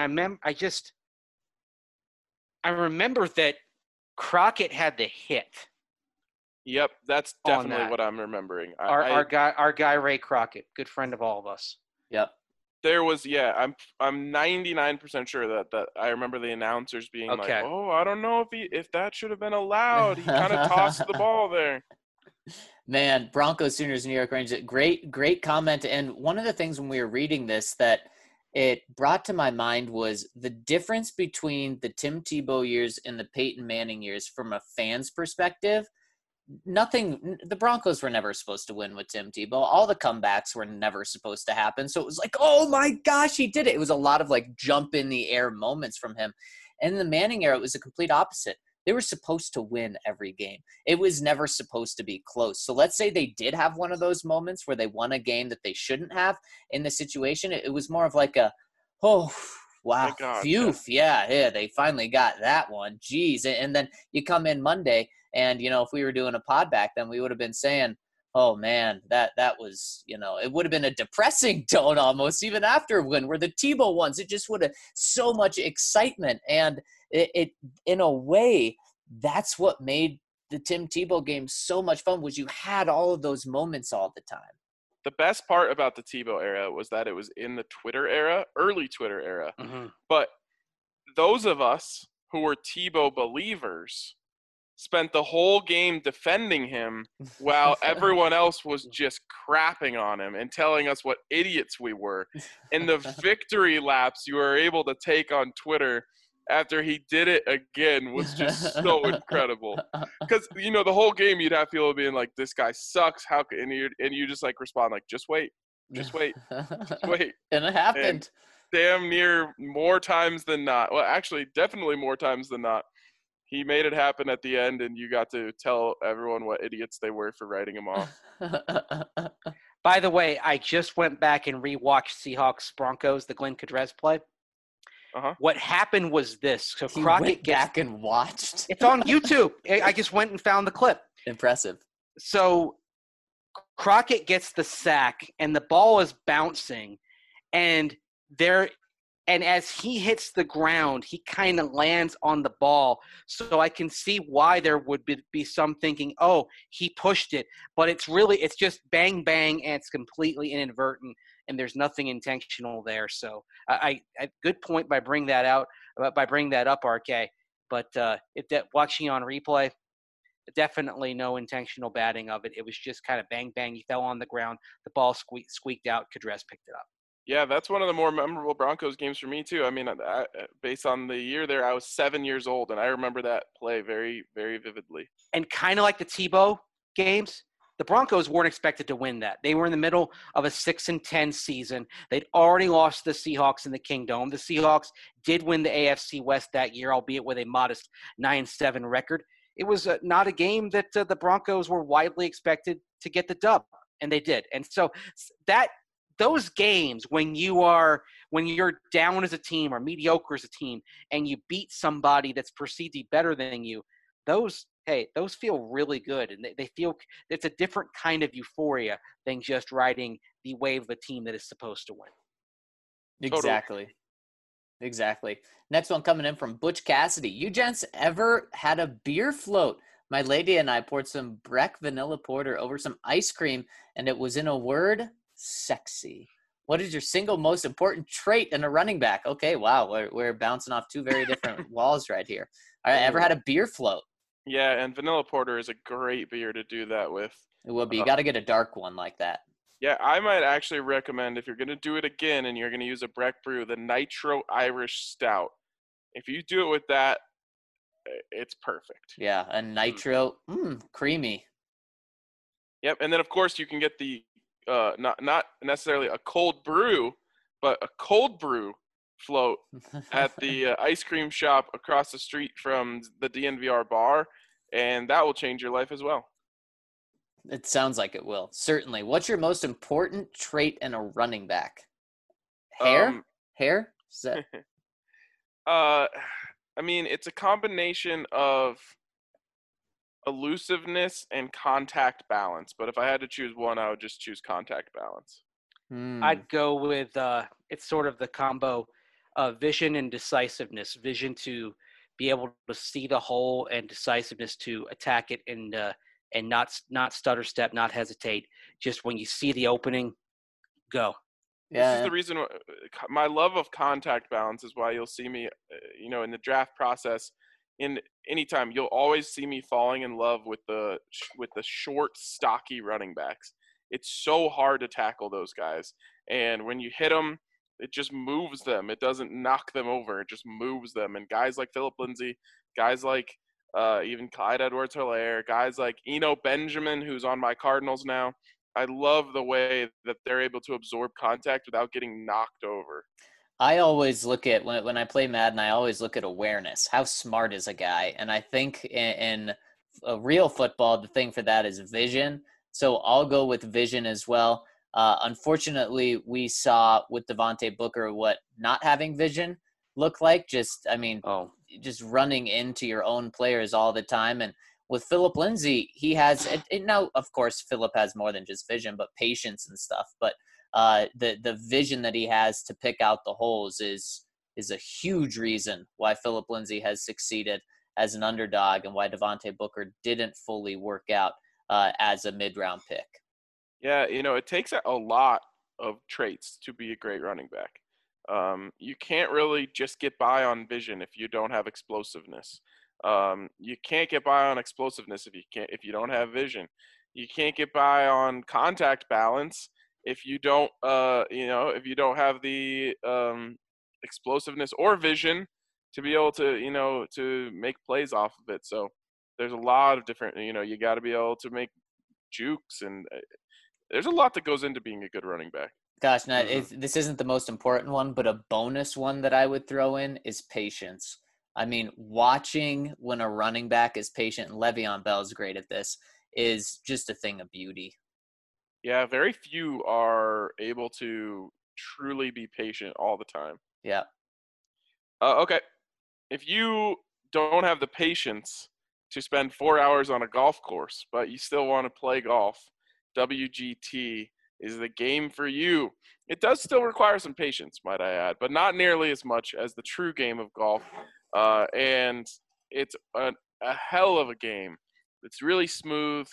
I remember that Crockett had the hit. Yep, that's definitely what I'm remembering. Our guy Ray Crockett, good friend of all of us. Yep. There was I'm 99% sure that I remember the announcers being like, "Oh, I don't know if that should have been allowed. He kind of tossed the ball there." Man, Broncos, Sooners, New York Rangers, great comment. And one of the things when we were reading this that it brought to my mind was the difference between the Tim Tebow years and the Peyton Manning years from a fan's perspective. The Broncos were never supposed to win with Tim Tebow. All the comebacks were never supposed to happen. So it was like, oh my gosh, he did it. It was a lot of like jump in the air moments from him. And in the Manning era, it was the complete opposite. They were supposed to win every game. It was never supposed to be close. So let's say they did have one of those moments where they won a game that they shouldn't have in the situation. It was more of like oh, wow, phew, yeah, they finally got that one. Jeez. And then you come in Monday, and, if we were doing a pod back then, we would have been saying, oh, man, that was, it would have been a depressing tone almost even after when we're the Tebow ones. It just would have so much excitement. And it in a way, that's what made the Tim Tebow game so much fun was you had all of those moments all the time. The best part about the Tebow era was that it was in the Twitter era, early Twitter era. Mm-hmm. But those of us who were Tebow believers spent the whole game defending him while everyone else was just crapping on him and telling us what idiots we were. And the victory laps you were able to take on Twitter after he did it again was just so incredible. Because, the whole game you'd have people being like, this guy sucks. And you just like respond like, just wait. Just wait. Just wait. And it happened. And damn near more times than not. Well, actually, definitely more times than not. he made it happen at the end, and you got to tell everyone what idiots they were for writing him off. By the way, I just went back and rewatched Seahawks Broncos, the Glenn Kadrez play. Uh-huh. What happened was this. So He Crockett went gets back and watched. it's on YouTube. I just went and found the clip. Impressive. So Crockett gets the sack and the ball is bouncing and as he hits the ground, he kind of lands on the ball. So I can see why there would be some thinking, oh, he pushed it. But it's just bang, bang, and it's completely inadvertent, and there's nothing intentional there. So I good point by bringing that up, RK. But watching on replay, definitely no intentional batting of it. It was just kind of bang, bang. He fell on the ground. The ball squeaked out. Kadrez picked it up. Yeah, that's one of the more memorable Broncos games for me, too. I mean, based on the year there, I was 7 years old, and I remember that play very, very vividly. And kind of like the Tebow games, the Broncos weren't expected to win that. They were in the middle of a 6-10 season. They'd already lost the Seahawks in the Kingdome. The Seahawks did win the AFC West that year, albeit with a modest 9-7 record. It was not a game that the Broncos were widely expected to get the dub, and they did. And so those games when you're down as a team or mediocre as a team and you beat somebody that's perceived to be better than you, those feel really good, and they feel it's a different kind of euphoria than just riding the wave of a team that is supposed to win. Exactly. Next one coming in from Butch Cassidy. You gents ever had a beer float? My lady and I poured some Breck vanilla porter over some ice cream, and it was, in a word, sexy. What is your single most important trait in a running back? Okay, wow, we're bouncing off two very different walls right here. All right, ever had a beer float? Yeah, and vanilla porter is a great beer to do that with. It would be. You got to get a dark one like that. Yeah, I might actually recommend, if you're going to do it again and you're going to use a Breck brew, the Nitro Irish Stout. If you do it with that, it's perfect. Yeah, a nitro, creamy. Yep, and then of course you can get the not necessarily a cold brew, but a cold brew float at the ice cream shop across the street from the DNVR bar, and that will change your life as well. It sounds like it will. Certainly. What's your most important trait in a running back? Hair? Hair? Is that... I mean, it's a combination of elusiveness and contact balance. But if I had to choose one, I would just choose contact balance. I'd go with it's sort of the combo of vision and decisiveness. Vision to be able to see the hole, and decisiveness to attack it and not stutter step, not hesitate. Just when you see the opening, go. Yeah. This is the reason my love of contact balance is why you'll see me, in the draft process. In anytime, you'll always see me falling in love with the short, stocky running backs. It's so hard to tackle those guys, and when you hit them, it just moves them. It doesn't knock them over. It just moves them. And guys like Philip Lindsay, guys like even Clyde Edwards-Helaire, guys like Eno Benjamin, who's on my Cardinals now. I love the way that they're able to absorb contact without getting knocked over. I always look at, when I play Madden, I always look at awareness. How smart is a guy? And I think in a real football, the thing for that is vision. So I'll go with vision as well. Unfortunately, we saw with Devontae Booker what not having vision look like. Just running into your own players all the time. And with Philip Lindsay, he has now, of course, Philip has more than just vision, but patience and stuff. But the vision that he has to pick out the holes is a huge reason why Philip Lindsay has succeeded as an underdog and why Devontae Booker didn't fully work out as a mid-round pick. Yeah, it takes a lot of traits to be a great running back. You can't really just get by on vision if you don't have explosiveness. You can't get by on explosiveness if you don't have vision. You can't get by on contact balance if you don't if you don't have the explosiveness or vision to be able to to make plays off of it. So there's a lot of different you got to be able to make jukes, and there's a lot that goes into being a good running back. Gosh, now this isn't the most important one, but a bonus one that I would throw in is patience. I mean, watching when a running back is patient, and Le'Veon Bell is great at this, is just a thing of beauty. Yeah, very few are able to truly be patient all the time. Yeah. Okay, if you don't have the patience to spend 4 hours on a golf course, but you still want to play golf, WGT is the game for you. It does still require some patience, might I add, but not nearly as much as the true game of golf. And it's a hell of a game. It's really smooth.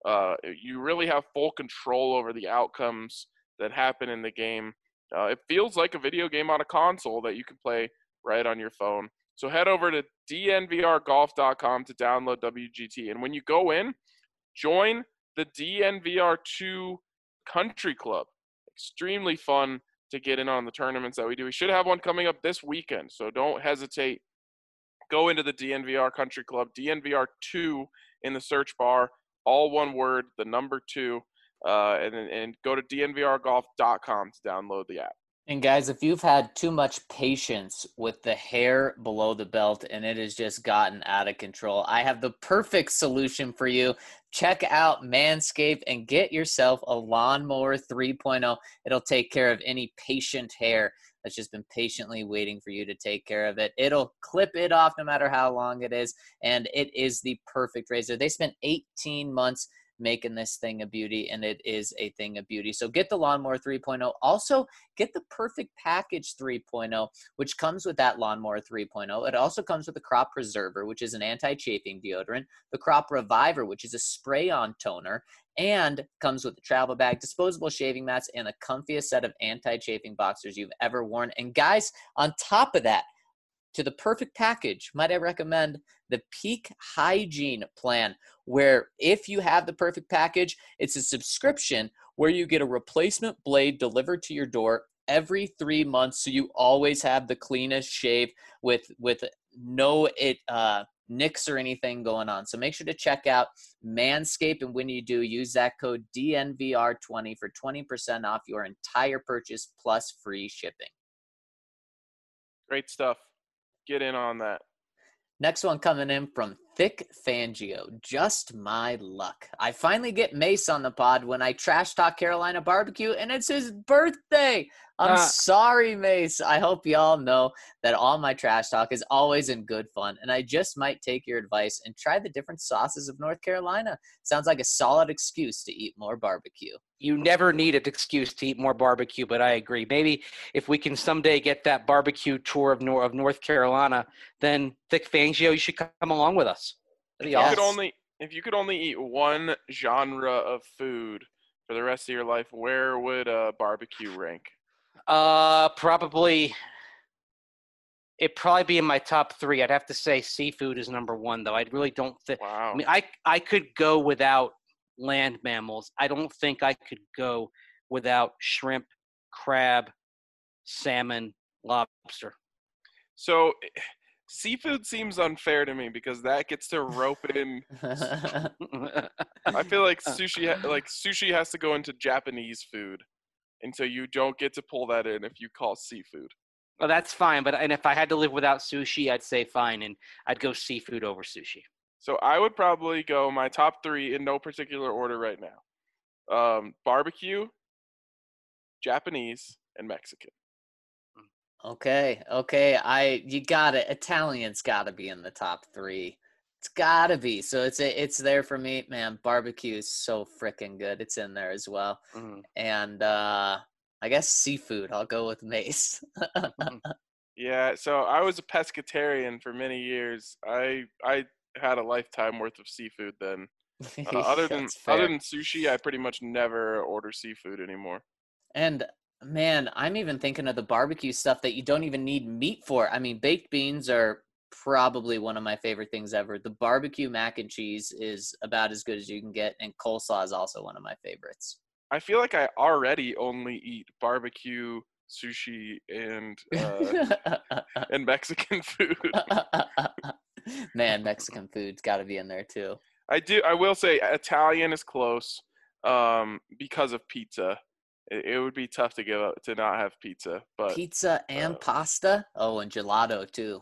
You really have full control over the outcomes that happen in the game. It feels like a video game on a console that you can play right on your phone. So head over to dnvrgolf.com to download WGT. And when you go in, join the DNVR2 Country Club. Extremely fun to get in on the tournaments that we do. We should have one coming up this weekend, so don't hesitate. Go into the DNVR Country Club, DNVR2 in the search bar, all one word, the number 2, and go to dnvrgolf.com to download the app. And guys, if you've had too much patience with the hair below the belt and it has just gotten out of control, I have the perfect solution for you. Check out Manscaped and get yourself a Lawnmower 3.0. It'll take care of any patient hair that's just been patiently waiting for you to take care of it. It'll clip it off no matter how long it is, and it is the perfect razor. They spent 18 months making this thing a beauty, and it is a thing of beauty. So get the Lawnmower 3.0. Also, get the Perfect Package 3.0, which comes with that Lawnmower 3.0. It also comes with the Crop Preserver, which is an anti-chafing deodorant, the Crop Reviver, which is a spray-on toner, and comes with a travel bag, disposable shaving mats, and the comfiest set of anti-chafing boxers you've ever worn. And guys, on top of that, to the Perfect Package, might I recommend the Peak Hygiene plan, where if you have the Perfect Package, it's a subscription where you get a replacement blade delivered to your door every 3 months, so you always have the cleanest shave with no nicks or anything going on. So make sure to check out Manscaped, and when you do, use that code DNVR20 for 20% off your entire purchase plus free shipping. Great stuff. Get in on that. Next one coming in from Thick Fangio. Just my luck. I finally get Mace on the pod when I trash talk Carolina barbecue, and it's his birthday. I'm sorry, Mace. I hope y'all know that all my trash talk is always in good fun, and I just might take your advice and try the different sauces of North Carolina. Sounds like a solid excuse to eat more barbecue. You never need an excuse to eat more barbecue, but I agree. Maybe if we can someday get that barbecue tour of North Carolina, then Thick Fangio, you should come along with us. That'd be awesome. If you could only eat one genre of food for the rest of your life, where would barbecue rank? It'd probably be in my top 3. I'd have to say seafood is number 1, though. I really don't think. Wow. I mean, I could go without land mammals. I don't think I could go without shrimp, crab, salmon, lobster. So seafood seems unfair to me because that gets to rope in. I feel like sushi has to go into Japanese food, and so you don't get to pull that in if you call seafood. Well, that's fine, and if I had to live without sushi, I'd say fine, and I'd go seafood over sushi. So I would probably go my top 3 in no particular order right now. Barbecue, Japanese, and Mexican. Okay. You got it. Italian's got to be in the top 3. It's got to be. So it's there for me, man. Barbecue is so freaking good. It's in there as well. Mm-hmm. And I guess seafood. I'll go with Mace. Yeah. So I was a pescatarian for many years. I had a lifetime worth of seafood then. Other than sushi, I pretty much never order seafood anymore. And man, I'm even thinking of the barbecue stuff that you don't even need meat for. I mean, baked beans are probably one of my favorite things ever. The barbecue mac and cheese is about as good as you can get, and coleslaw is also one of my favorites. I feel like I already only eat barbecue, sushi, and Mexican food. Man, Mexican food's got to be in there too. I will say Italian is close because of pizza. It would be tough to give up to not have pizza, but pizza and pasta. Oh, and gelato too.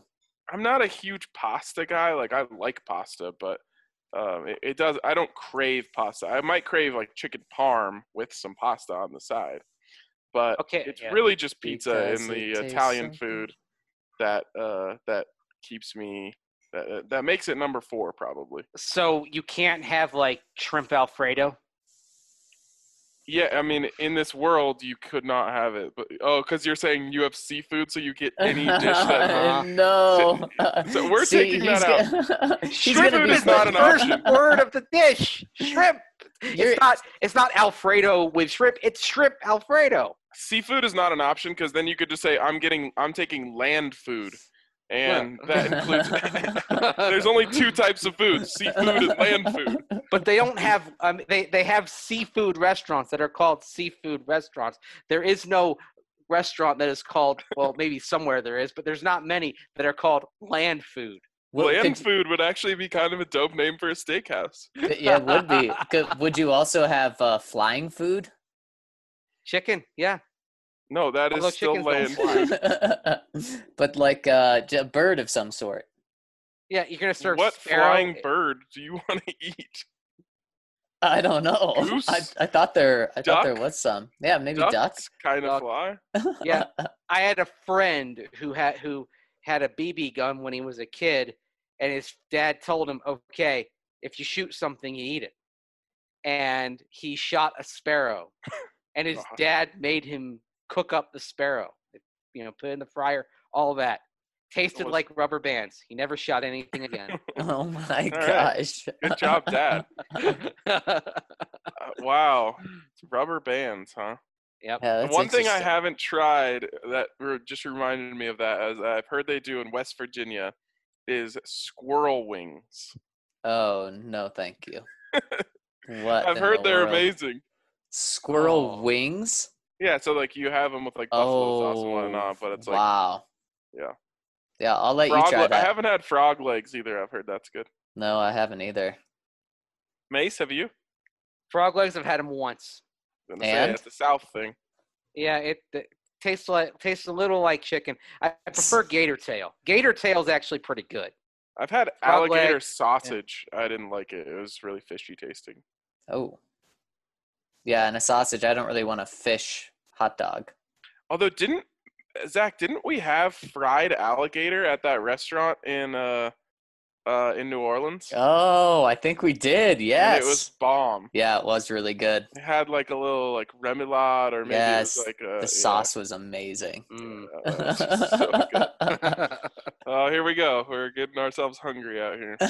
I'm not a huge pasta guy. Like I like pasta, but it does. I don't crave pasta. I might crave like chicken parm with some pasta on the side, but Okay, it's yeah. really just pizza Because and the it tastes Italian so food that keeps me that makes it number 4 probably. So you can't have like shrimp Alfredo. Yeah, I mean, in this world, you could not have it. But because you're saying you have seafood, so you get any dish that. No. So we're See, taking that out. He's Shrimp gonna be is not the an first option. word of the dish. Shrimp. You're- It's not Alfredo with shrimp. It's shrimp Alfredo. Seafood is not an option because then you could just say I'm taking land food, and Yeah. that includes. There's only 2 types of food: seafood and land food. But they don't have. They have seafood restaurants that are called seafood restaurants. There is no restaurant that is called. Well, maybe somewhere there is, but there's not many that are called land food. Land food would actually be kind of a dope name for a steakhouse. Yeah, it would be. Would you also have flying food? Chicken, yeah. No, that Although is still chickens don't land fly. food. But like a bird of some sort. Yeah, you're gonna serve What sparrow. flying bird do you want to eat? I don't know. Goose? I thought there Duck? was some. Yeah, maybe Ducks ducks. kind of Duck. fly. Yeah, I had a friend who had a BB gun when he was a kid, and his dad told him, "Okay, if you shoot something, you eat it." And he shot a sparrow, and his God. dad made him cook up the sparrow. Put it in the fryer, all of that. Tasted was- like rubber bands. He never shot anything again. Oh my All right. gosh. Good job, Dad. Wow, rubber bands, huh? Yep. Yeah, that's One thing I interesting. haven't tried that just reminded me of that, as I've heard they do in West Virginia, is squirrel wings. Oh no, thank you. What? I've in heard the they're world? amazing. Squirrel Oh. wings? Yeah, so like you have them with like buffalo sauce and whatnot, but it's like wow. yeah. Yeah, I'll let you frog. try I that. haven't had frog legs either. I've heard that's good. No, I haven't either. Mace, have you? Frog legs, I've had them once. Gonna say And? it's a South thing. Yeah, it tastes a little like chicken. I prefer gator tail. Gator tail is actually pretty good. I've had Frog alligator leg, sausage. I didn't like it. It was really fishy tasting. Oh. Yeah, and a sausage. I don't really want a fish hot dog. Although didn't we have fried alligator at that restaurant in New Orleans? Oh, I think we did. And Yes. it was bomb. Yeah, it was really good. It had like a little like remoulade or maybe Yes, it was like the sauce was amazing. Mm. That was just so good. Oh, here we go. We're getting ourselves hungry out here.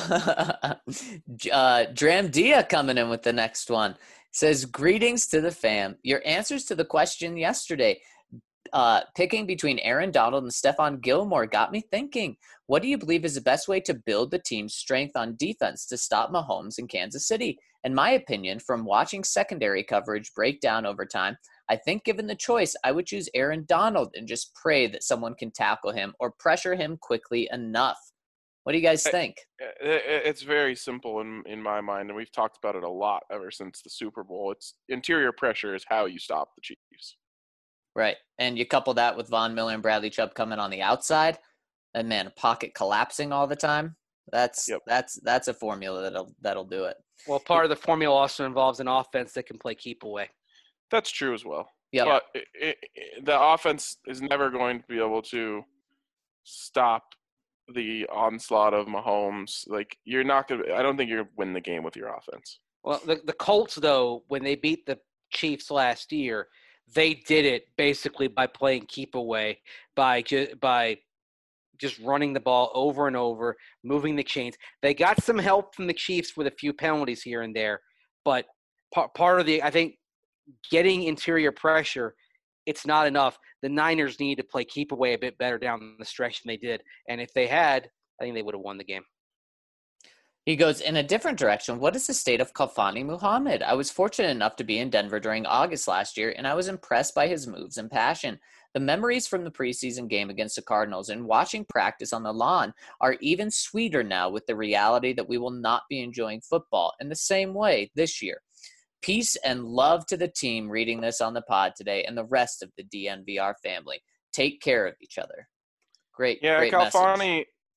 Dram Dia coming in with the next one. Says, greetings to the fam. Your answers to the question yesterday, picking between Aaron Donald and Stephon Gilmore got me thinking. What do you believe is the best way to build the team's strength on defense to stop Mahomes in Kansas City? In my opinion, from watching secondary coverage break down over time, I think given the choice, I would choose Aaron Donald and just pray that someone can tackle him or pressure him quickly enough. What do you guys think? It's very simple in my mind, and we've talked about it a lot ever since the Super Bowl. It's interior pressure is how you stop the Chiefs. Right. And you couple that with Von Miller and Bradley Chubb coming on the outside, and man, a pocket collapsing all the time. That's a formula that'll do it. Well, part of the formula also involves an offense that can play keep away. That's true as well. Yeah. But the offense is never going to be able to stop the onslaught of Mahomes. Like you're not gonna. I don't think you're gonna win the game with your offense. Well, the Colts, though, when they beat the Chiefs last year, they did it basically by playing keep away, by just running the ball over and over, moving the chains. They got some help from the Chiefs with a few penalties here and there, but part of I think, getting interior pressure, it's not enough. The Niners need to play keep away a bit better down the stretch than they did, and if they had, I think they would have won the game. He goes, in a different direction, what is the state of Khalfani Muhammad? I was fortunate enough to be in Denver during August last year, and I was impressed by his moves and passion. The memories from the preseason game against the Cardinals and watching practice on the lawn are even sweeter now with the reality that we will not be enjoying football in the same way this year. Peace and love to the team reading this on the pod today and the rest of the DNVR family. Take care of each other. Great, Yeah, great Khalfani. message.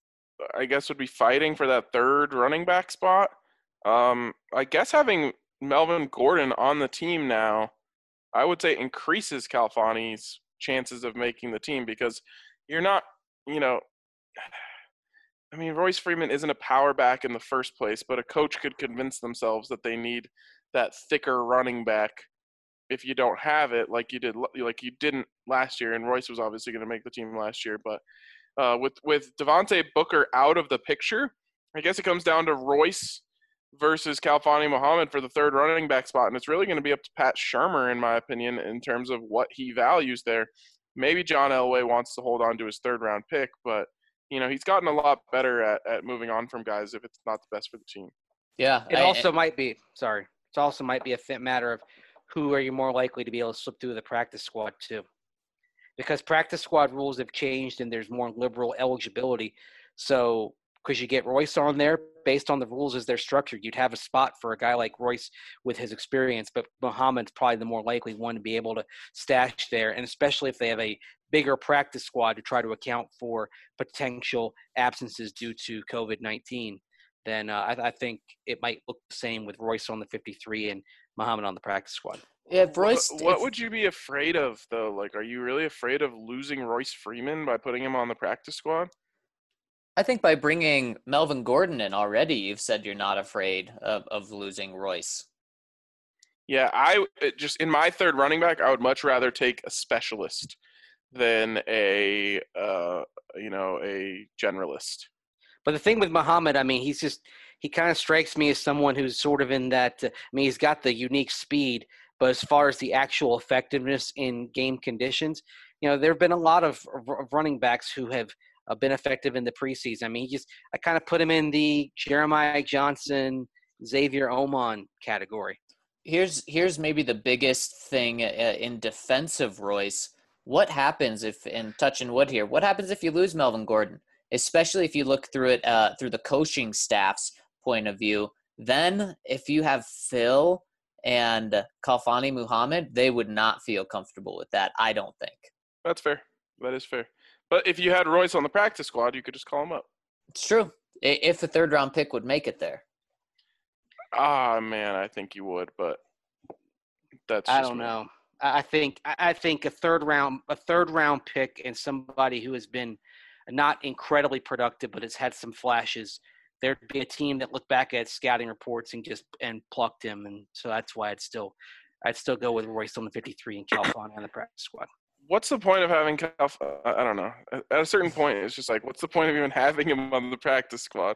I guess, would be fighting for that third running back spot. I guess having Melvin Gordon on the team now, I would say increases Calfani's chances of making the team because you're not, Royce Freeman isn't a power back in the first place, but a coach could convince themselves that they need that thicker running back if you don't have it like you didn't last year. And Royce was obviously going to make the team last year, but with Devontae Booker out of the picture, I guess it comes down to Royce versus Khalfani Muhammad for the third running back spot, and it's really going to be up to Pat Shurmur, in my opinion, in terms of what he values there. Maybe John Elway wants to hold on to his third-round pick, but he's gotten a lot better at moving on from guys if it's not the best for the team. Yeah, It also might be a fit matter of who are you more likely to be able to slip through the practice squad to. Because practice squad rules have changed and there's more liberal eligibility. So because you get Royce on there, based on the rules as they're structured, you'd have a spot for a guy like Royce with his experience, but Muhammad's probably the more likely one to be able to stash there, and especially if they have a bigger practice squad to try to account for potential absences due to COVID-19, then I think it might look the same with Royce on the 53 and Muhammad on the practice squad. Yeah, Royce. What would you be afraid of, though? Like, are you really afraid of losing Royce Freeman by putting him on the practice squad? I think by bringing Melvin Gordon in already, you've said you're not afraid of losing Royce. Yeah, just in my third running back, I would much rather take a specialist than a generalist. But the thing with Muhammad, he kind of strikes me as someone who's sort of in that. He's got the unique speed, but as far as the actual effectiveness in game conditions, there have been a lot of running backs who have been effective in the preseason. I kind of put him in the Jeremiah Johnson, Xavier Oman category. Here's maybe the biggest thing in defense of Royce. What happens if, and touching wood here, what happens if you lose Melvin Gordon? Especially if you look through it through the coaching staff's point of view. Then if you have Phil and Khalfani Muhammad, they would not feel comfortable with that, I don't think. That's fair. That is fair. But if you had Royce on the practice squad, you could just call him up. It's true. If a third-round pick would make it there. Man, I think you would, but that's just I don't know. I think a third round pick and somebody who has been not incredibly productive, but has had some flashes. There'd be a team that looked back at scouting reports and plucked him, and so that's why I'd still go with Royce on the 53 and Khalfani on the practice squad. What's the point of having I don't know. At a certain point, it's just like, what's the point of even having him on the practice squad?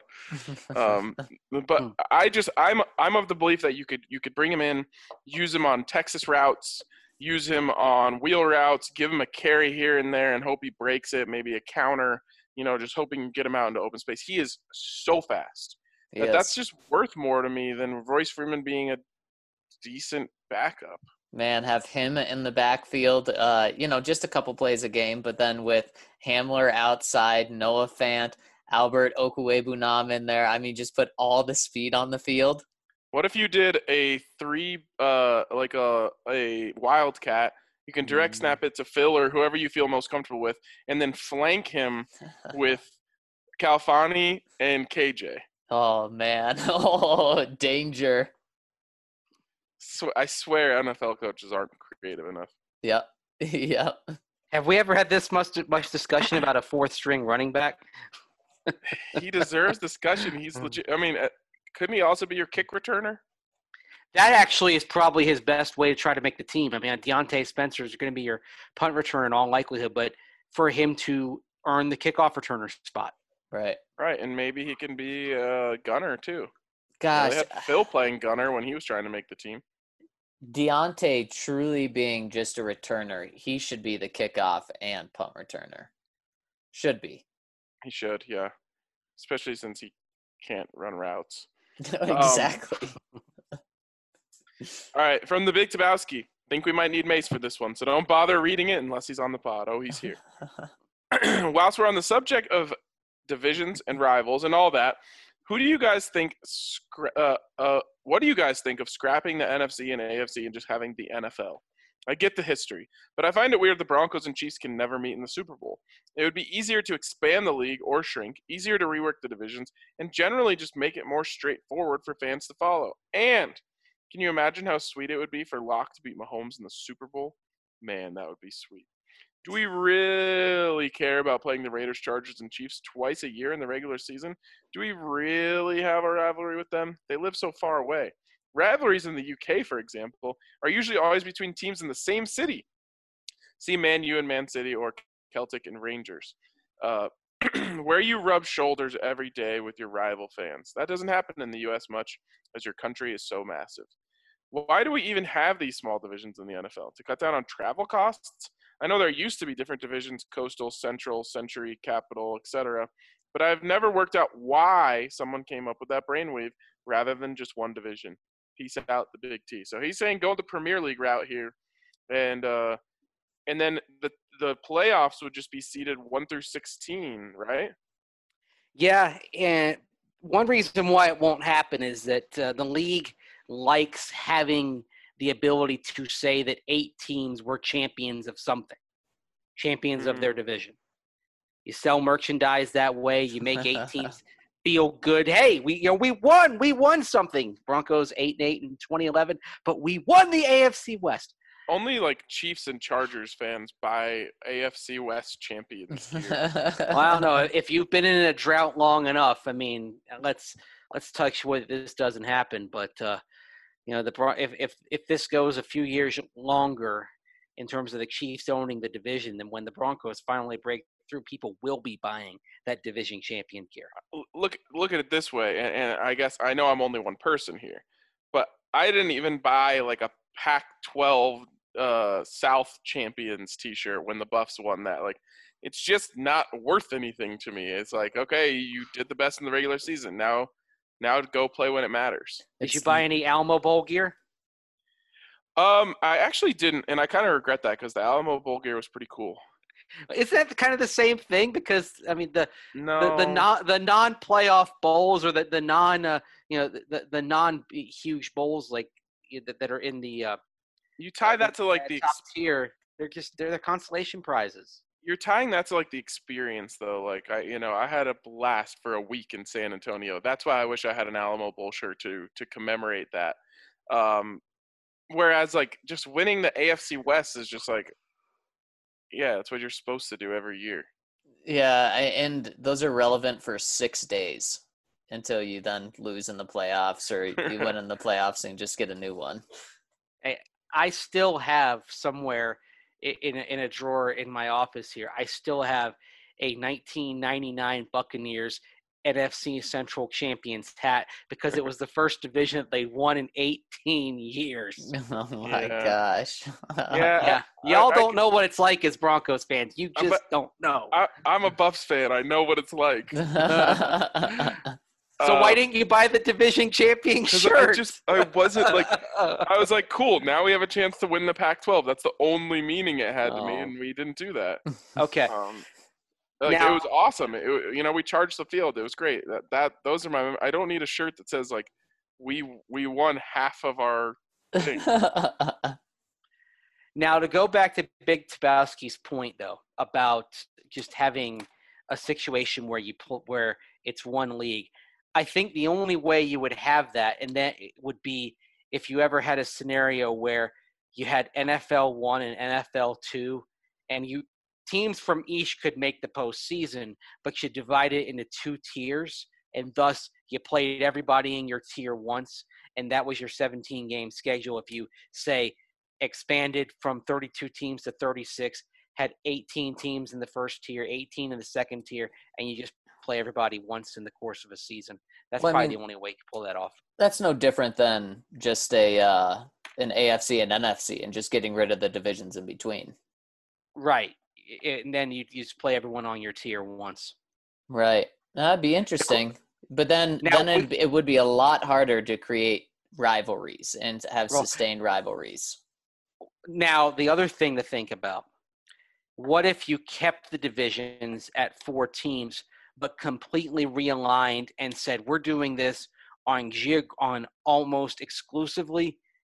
But I'm of the belief that you could bring him in, use him on Texas routes, use him on wheel routes, give him a carry here and there, and hope he breaks it. Maybe a counter. Just hoping to get him out into open space. He is so fast. That's just worth more to me than Royce Freeman being a decent backup. Man, have him in the backfield, just a couple plays a game, but then with Hamler outside, Noah Fant, Albert Okwuegbunam in there, just put all the speed on the field. What if you did a a wildcat? You can direct snap it to Phil or whoever you feel most comfortable with, and then flank him with Khalfani and KJ. Oh, man. Oh, danger. So I swear NFL coaches aren't creative enough. Yep. Yep. Have we ever had this much discussion about a fourth-string running back? He deserves discussion. He's legit. Couldn't he also be your kick returner? That actually is probably his best way to try to make the team. Deontay Spencer is going to be your punt returner in all likelihood, but for him to earn the kickoff returner spot. Right. Right, and maybe he can be a gunner too. Gosh. They had Phil playing gunner when he was trying to make the team. Deontay truly being just a returner, he should be the kickoff and punt returner. Should be. He should, yeah. Especially since he can't run routes. Exactly. All right, from the Big Tabowski. Think we might need Mace for this one, so don't bother reading it unless he's on the pod. Oh, he's here. Whilst we're on the subject of divisions and rivals and all that, who do you guys think what do you guys think of scrapping the NFC and AFC and just having the NFL? I get the history, but I find it weird the Broncos and Chiefs can never meet in the Super Bowl. It would be easier to expand the league or shrink, easier to rework the divisions, and generally just make it more straightforward for fans to follow. And can you imagine how sweet it would be for Locke to beat Mahomes in the Super Bowl? Man, that would be sweet. Do we really care about playing the Raiders, Chargers, and Chiefs twice a year in the regular season? Do we really have a rivalry with them? They live so far away. Rivalries in the UK, for example, are usually always between teams in the same city. See Man U and Man City, or Celtic and Rangers, where you rub shoulders every day with your rival fans. That doesn't happen in the US much, as your country is so massive. Why do we even have these small divisions in the NFL? To cut down on travel costs? I know there used to be different divisions: Coastal, Central, Century, Capital, etc. But I've never worked out why someone came up with that brainwave rather than just one division. Peace out, the Big T. So he's saying go the Premier League route here, and then the playoffs would just be seeded 1 through 16, right? Yeah, and one reason why it won't happen is that the league likes having the ability to say that 8 teams were champions of something, champions of their division. You sell merchandise that way. You make 8 teams feel good. Hey, we won something. Broncos 8-8 in 2011, but we won the AFC West. Only like Chiefs and Chargers fans buy AFC West champions. Well, I don't know. If you've been in a drought long enough, I mean, let's touch wood this doesn't happen. But if this goes a few years longer in terms of the Chiefs owning the division, then when the Broncos finally break through, people will be buying that division champion gear. Look at it this way, and I guess I know I'm only one person here, but I didn't even buy like a Pac-12 South Champions T-shirt when the Buffs won that. Like, it's just not worth anything to me. It's like, okay, you did the best in the regular season. Now go play when it matters. Did you buy any Alamo Bowl gear? I actually didn't, and I kind of regret that because the Alamo Bowl gear was pretty cool. Is that kind of the same thing? Because I mean, the non-playoff bowls, or the non huge bowls like that are in the you tie that to like the top tier. They're the consolation prizes. You're tying that to like the experience though. Like I had a blast for a week in San Antonio. That's why I wish I had an Alamo Bowl shirt to commemorate that. Whereas like just winning the AFC West is just like, yeah, that's what you're supposed to do every year. Yeah, and those are relevant for 6 days until you then lose in the playoffs, or you win in the playoffs and just get a new one. I still have somewhere in a drawer in my office here, I still have a 1999 Buccaneers NFC Central Champions hat because it was the first division that they won in 18 years. Oh my gosh. Yeah. Y'all don't know what it's like as Broncos fans. You just don't know. I'm a Buffs fan. I know what it's like. So why didn't you buy the division champion shirt? I wasn't like, I was like, cool, now we have a chance to win the Pac-12. That's the only meaning it had to me, and we didn't do that. Okay. It was awesome. We charged the field. It was great. Those are my. I don't need a shirt that says like, we won half of our thing. Now to go back to Big Tabowski's point though about just having a situation where it's one league. I think the only way you would have that, and that would be if you ever had a scenario where you had NFL 1 and NFL 2, and teams from each could make the postseason, but you divide it into 2 tiers, and thus you played everybody in your tier once, and that was your 17-game schedule. If you, say, expanded from 32 teams to 36, had 18 teams in the first tier, 18 in the second tier, and you just play everybody once in the course of a season. That's the only way you can pull that off. That's no different than just an AFC and NFC and just getting rid of the divisions in between. Right. And then you just play everyone on your tier once. Right. That'd be interesting. But then it would be a lot harder to create rivalries and to have sustained rivalries. Now, the other thing to think about, what if you kept the divisions at 4 teams but completely realigned and said, we're doing this on almost exclusively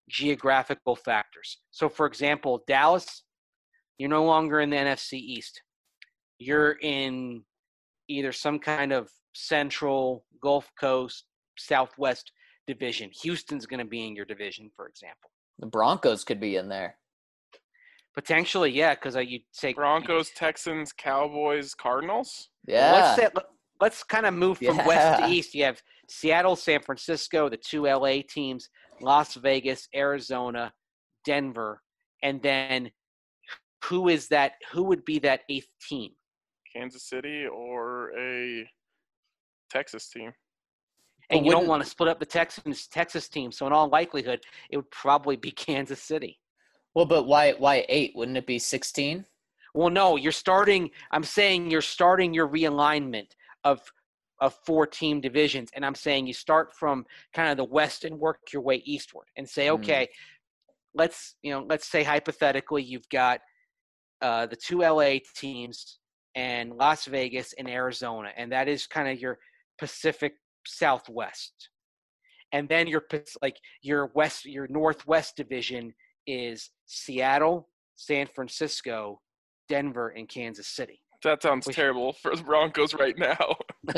geographical factors. So, for example, Dallas, you're no longer in the NFC East. You're in either some kind of Central, Gulf Coast, Southwest division. Houston's going to be in your division, for example. The Broncos could be in there. Potentially, yeah, because you'd say Broncos, Texans, Cowboys, Cardinals. Yeah. Let's kind of move from west to east. You have Seattle, San Francisco, the 2 LA teams, Las Vegas, Arizona, Denver, and then who would be that 8th team? Kansas City or a Texas team. And you don't want to split up the Texas team, so in all likelihood, it would probably be Kansas City. Well, but why 8? Wouldn't it be 16? Well, no, I'm saying you're starting your realignment of 4-team divisions, and I'm saying you start from kind of the west and work your way eastward and say, okay, let's say hypothetically you've got the 2 LA teams and Las Vegas and Arizona, and that is kind of your Pacific Southwest. And then your Northwest division is Seattle, San Francisco, Denver, and Kansas City. That sounds terrible for the Broncos right now.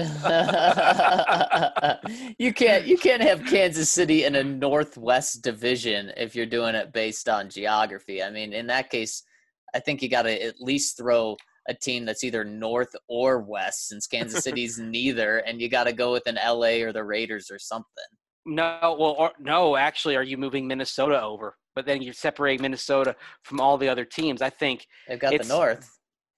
You can't have Kansas City in a Northwest division if you're doing it based on geography. I mean, in that case, I think you got to at least throw a team that's either north or west, since Kansas City's neither, and you got to go with an LA or the Raiders or something. No, actually, are you moving Minnesota over? But then you're separating Minnesota from all the other teams. I think they've got the North.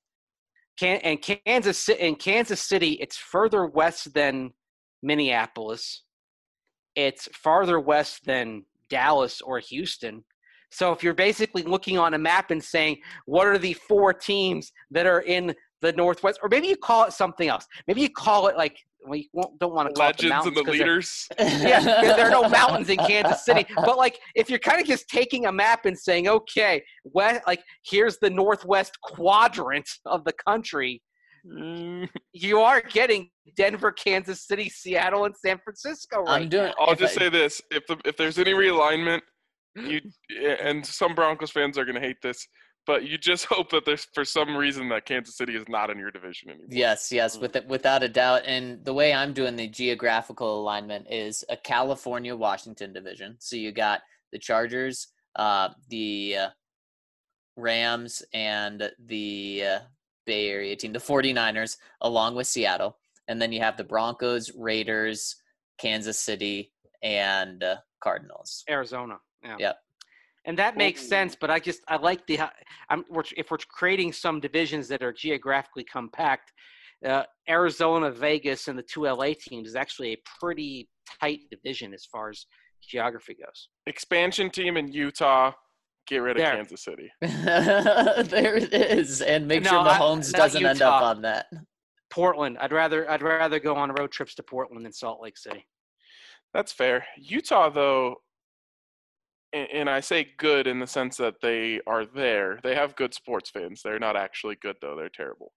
Kansas City, it's further west than Minneapolis. It's farther west than Dallas or Houston. So if you're basically looking on a map and saying, what are the 4 teams that are in the Northwest? Or maybe you call it something else. Maybe you call it like, well, you don't want to call it the mountains. Legends and the leaders. Yeah, there are no mountains in Kansas City. But like, if you're kind of just taking a map and saying, okay, here's the Northwest quadrant of the country, you are getting Denver, Kansas City, Seattle, and San Francisco right now. I'll just say this. If there's any realignment, and some Broncos fans are going to hate this, but you just hope that there's, for some reason, that Kansas City is not in your division anymore. Yes, without a doubt. And the way I'm doing the geographical alignment is a California-Washington division. So you got the Chargers, the Rams, and the Bay Area team, the 49ers, along with Seattle. And then you have the Broncos, Raiders, Kansas City, and Cardinals. Arizona. Yeah. Yep. And that makes sense, but I like if we're creating some divisions that are geographically compact, Arizona, Vegas, and the 2 LA teams is actually a pretty tight division as far as geography goes. Expansion team in Utah, get rid of Kansas City. There it is, and make sure Mahomes doesn't end up on that. Portland. I'd rather go on road trips to Portland than Salt Lake City. That's fair. Utah, though. And I say good in the sense that they are there. They have good sports fans. They're not actually good, though. They're terrible.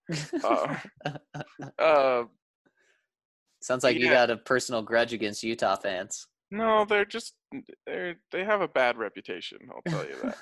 Sounds like you got a personal grudge against Utah fans. No, they have a bad reputation. I'll tell you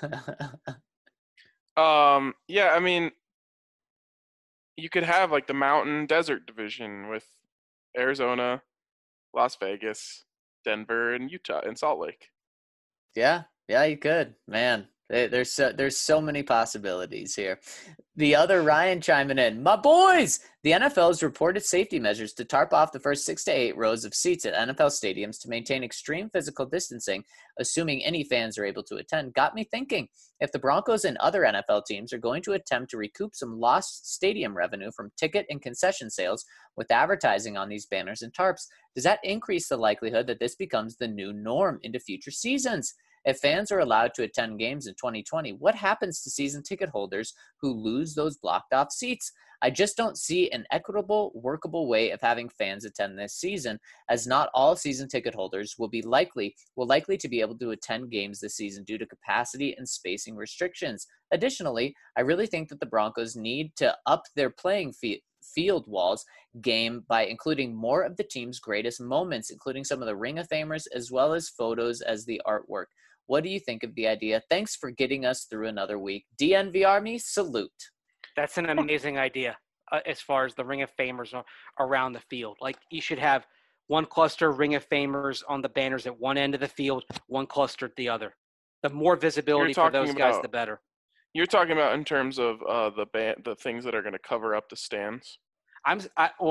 that. Yeah, I mean, you could have like the Mountain Desert division with Arizona, Las Vegas, Denver, and Utah, and Salt Lake. Yeah, you could. Man, there's so many possibilities here. The other Ryan chiming in, my boys! The NFL's reported safety measures to tarp off the first 6 to 8 rows of seats at NFL stadiums to maintain extreme physical distancing, assuming any fans are able to attend, got me thinking. If the Broncos and other NFL teams are going to attempt to recoup some lost stadium revenue from ticket and concession sales with advertising on these banners and tarps, does that increase the likelihood that this becomes the new norm into future seasons? If fans are allowed to attend games in 2020, what happens to season ticket holders who lose those blocked off seats? I just don't see an equitable, workable way of having fans attend this season, as not all season ticket holders will likely to be able to attend games this season due to capacity and spacing restrictions. Additionally, I really think that the Broncos need to up their playing field walls game by including more of the team's greatest moments, including some of the Ring of Famers as well as photos as the artwork. What do you think of the idea? Thanks for getting us through another week. DNV Army, salute. That's an amazing idea as far as the Ring of Famers around the field. Like, you should have one cluster Ring of Famers on the banners at one end of the field, one cluster at the other. The more visibility for those guys, the better. You're talking about in terms of the things that are going to cover up the stands. I'm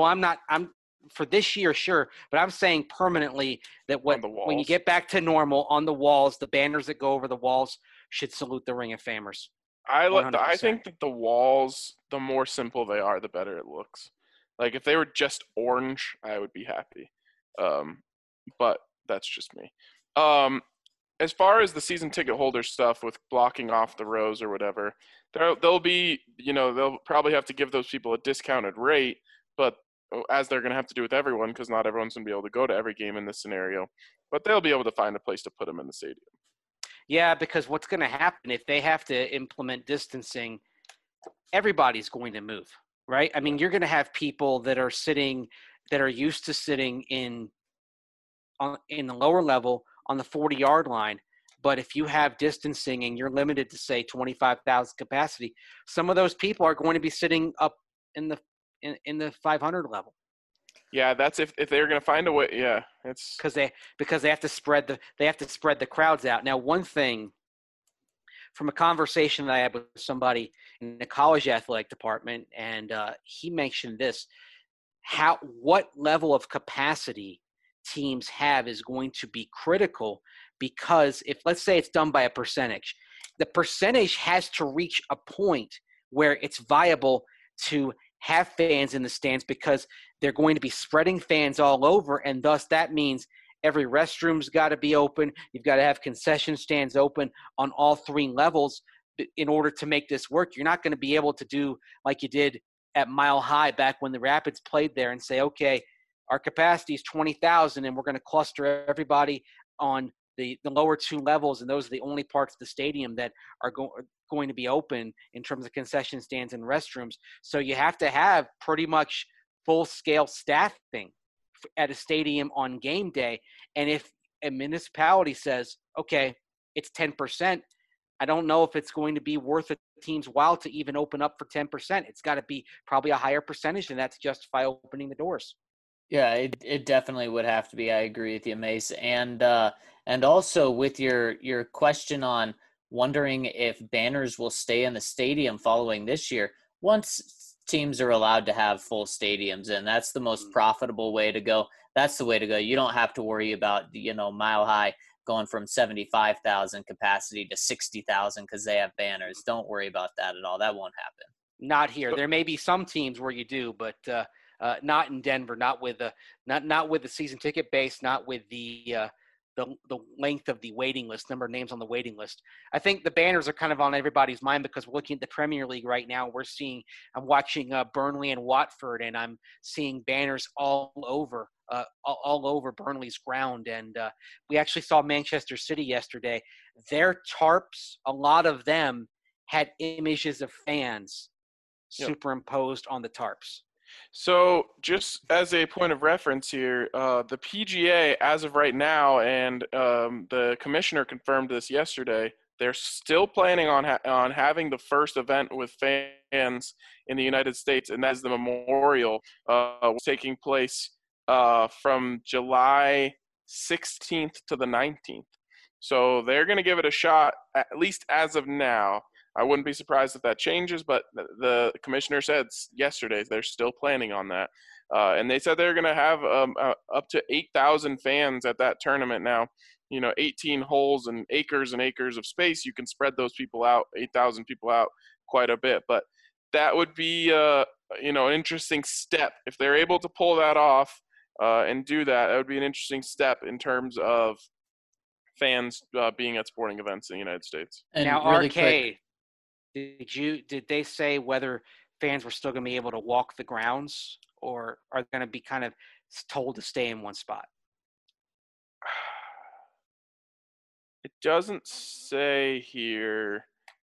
for this year, sure, but I'm saying permanently that when you get back to normal on the walls, the banners that go over the walls should salute the Ring of Famers. I think that the walls, the more simple they are, the better it looks. Like, if they were just orange, I would be happy. But that's just me. As far as the season ticket holder stuff with blocking off the rows or whatever, they'll be, they'll probably have to give those people a discounted rate, but as they're going to have to do with everyone, because not everyone's going to be able to go to every game in this scenario, but they'll be able to find a place to put them in the stadium. Yeah, because what's going to happen if they have to implement distancing, everybody's going to move, right? I mean, you're going to have people that are used to sitting in the lower level on the 40-yard line. But if you have distancing and you're limited to, say, 25,000 capacity, some of those people are going to be sitting up in the 500 level. Yeah, that's if they're going to find a way. Yeah, it's because they have to spread the crowds out. Now, one thing from a conversation that I had with somebody in the college athletic department, and he mentioned this: what level of capacity teams have is going to be critical, because if, let's say, it's done by a percentage, the percentage has to reach a point where it's viable to have fans in the stands, because they're going to be spreading fans all over, and thus that means every restroom's got to be open. You've got to have concession stands open on all three levels in order to make this work. You're not going to be able to do like you did at Mile High back when the Rapids played there and say, okay, our capacity is 20,000 and we're going to cluster everybody on the lower two levels, and those are the only parts of the stadium that are going to be open in terms of concession stands and restrooms. So you have to have pretty much full-scale staffing at a stadium on game day. And if a municipality says, okay, it's 10%, I don't know if it's going to be worth a team's while to even open up for 10%. It's got to be probably a higher percentage than that to justify opening the doors. Yeah, it definitely would have to be. I agree with you, Mace. And also with your question on wondering if banners will stay in the stadium following this year, once teams are allowed to have full stadiums, and that's the most profitable way to go. That's the way to go. You don't have to worry about, Mile High going from 75,000 capacity to 60,000 because they have banners. Don't worry about that at all. That won't happen. Not here. There may be some teams where you do, but not in Denver. Not with the season ticket base. Not with the length of the waiting list, number of names on the waiting list. I think the banners are kind of on everybody's mind because we're looking at the Premier League right now. I'm watching Burnley and Watford, and I'm seeing banners all over Burnley's ground. And we actually saw Manchester City yesterday. Their tarps, a lot of them had images of fans superimposed on the tarps. So just as a point of reference here, the PGA, as of right now, and the commissioner confirmed this yesterday, they're still planning on having the first event with fans in the United States, and that is the Memorial, taking place from July 16th to the 19th. So they're going to give it a shot, at least as of now. I wouldn't be surprised if that changes, but the commissioner said yesterday they're still planning on that. And they said they're going to have up to 8,000 fans at that tournament now. 18 holes and acres of space. You can spread those people out, 8,000 people out quite a bit. But that would be, an interesting step. If they're able to pull that off and do that, that would be an interesting step in terms of fans being at sporting events in the United States. And now, really Arcade. Did they say whether fans were still going to be able to walk the grounds, or are they going to be kind of told to stay in one spot? It doesn't say here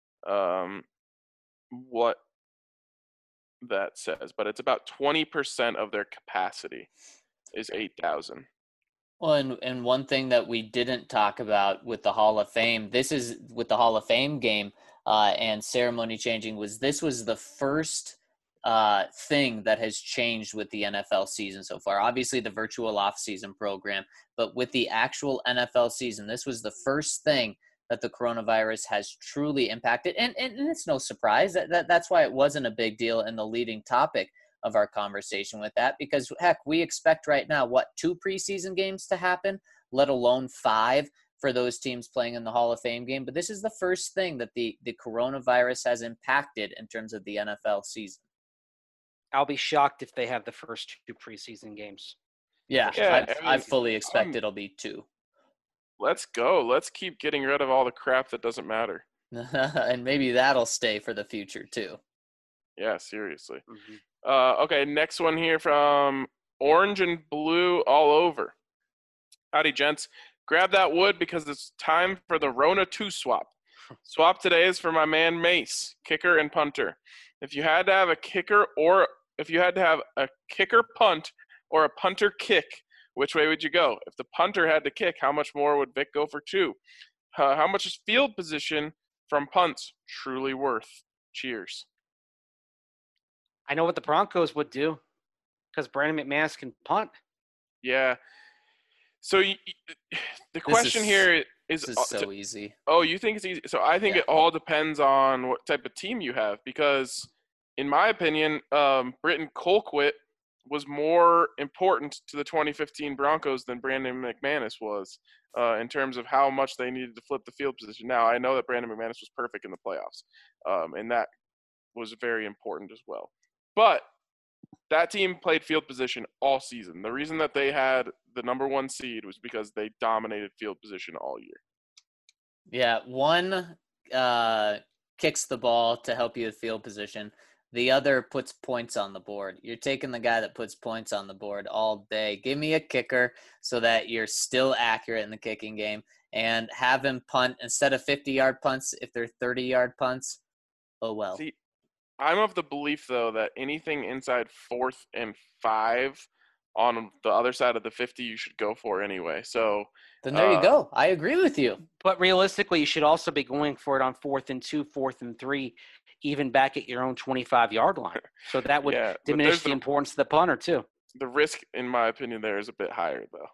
what that says, but it's about 20% of their capacity is 8,000. Well, and one thing that we didn't talk about with the Hall of Fame, this is with the Hall of Fame game and ceremony changing, this was the first thing that has changed with the NFL season so far. Obviously, the virtual off-season program, but with the actual NFL season, this was the first thing that the coronavirus has truly impacted. And it's no surprise that's why it wasn't a big deal in the leading topic of our conversation with that, because heck, we expect right now, 2 preseason games to happen, let alone 5 for those teams playing in the Hall of Fame game. But this is the first thing that the coronavirus has impacted in terms of the NFL season. I'll be shocked if they have the first 2 preseason games. Yeah, Yeah, I fully expect it'll be 2. Let's go. Let's keep getting rid of all the crap that doesn't matter. And maybe that'll stay for the future too. Yeah, seriously. Mm-hmm. Okay, next one here from Orange and Blue All Over. Howdy, gents. Grab that wood because it's time for the Rona 2 swap. Swap today is for my man Mace, kicker and punter. If you had to have a kicker punt or a punter kick, which way would you go? If the punter had to kick, how much more would Vic go for 2? How much is field position from punts truly worth? Cheers. I know what the Broncos would do because Brandon McManus can punt. Yeah. So the question here is so easy. Oh, you think it's easy? So I think it all depends on what type of team you have, because in my opinion, Britton Colquitt was more important to the 2015 Broncos than Brandon McManus was in terms of how much they needed to flip the field position. Now, I know that Brandon McManus was perfect in the playoffs, and that was very important as well. But that team played field position all season. The reason that they had the number 1 seed was because they dominated field position all year. Yeah, one kicks the ball to help you with field position. The other puts points on the board. You're taking the guy that puts points on the board all day. Give me a kicker so that you're still accurate in the kicking game, and have him punt instead of 50-yard punts if they're 30-yard punts. Oh, well. See, I'm of the belief, though, that anything inside 4th and 5 on the other side of the 50 you should go for anyway. So then there you go. I agree with you. But realistically, you should also be going for it on 4th and 2, 4th and 3, even back at your own 25-yard line. So that would diminish the importance of the punter too. The risk, in my opinion, there is a bit higher, though.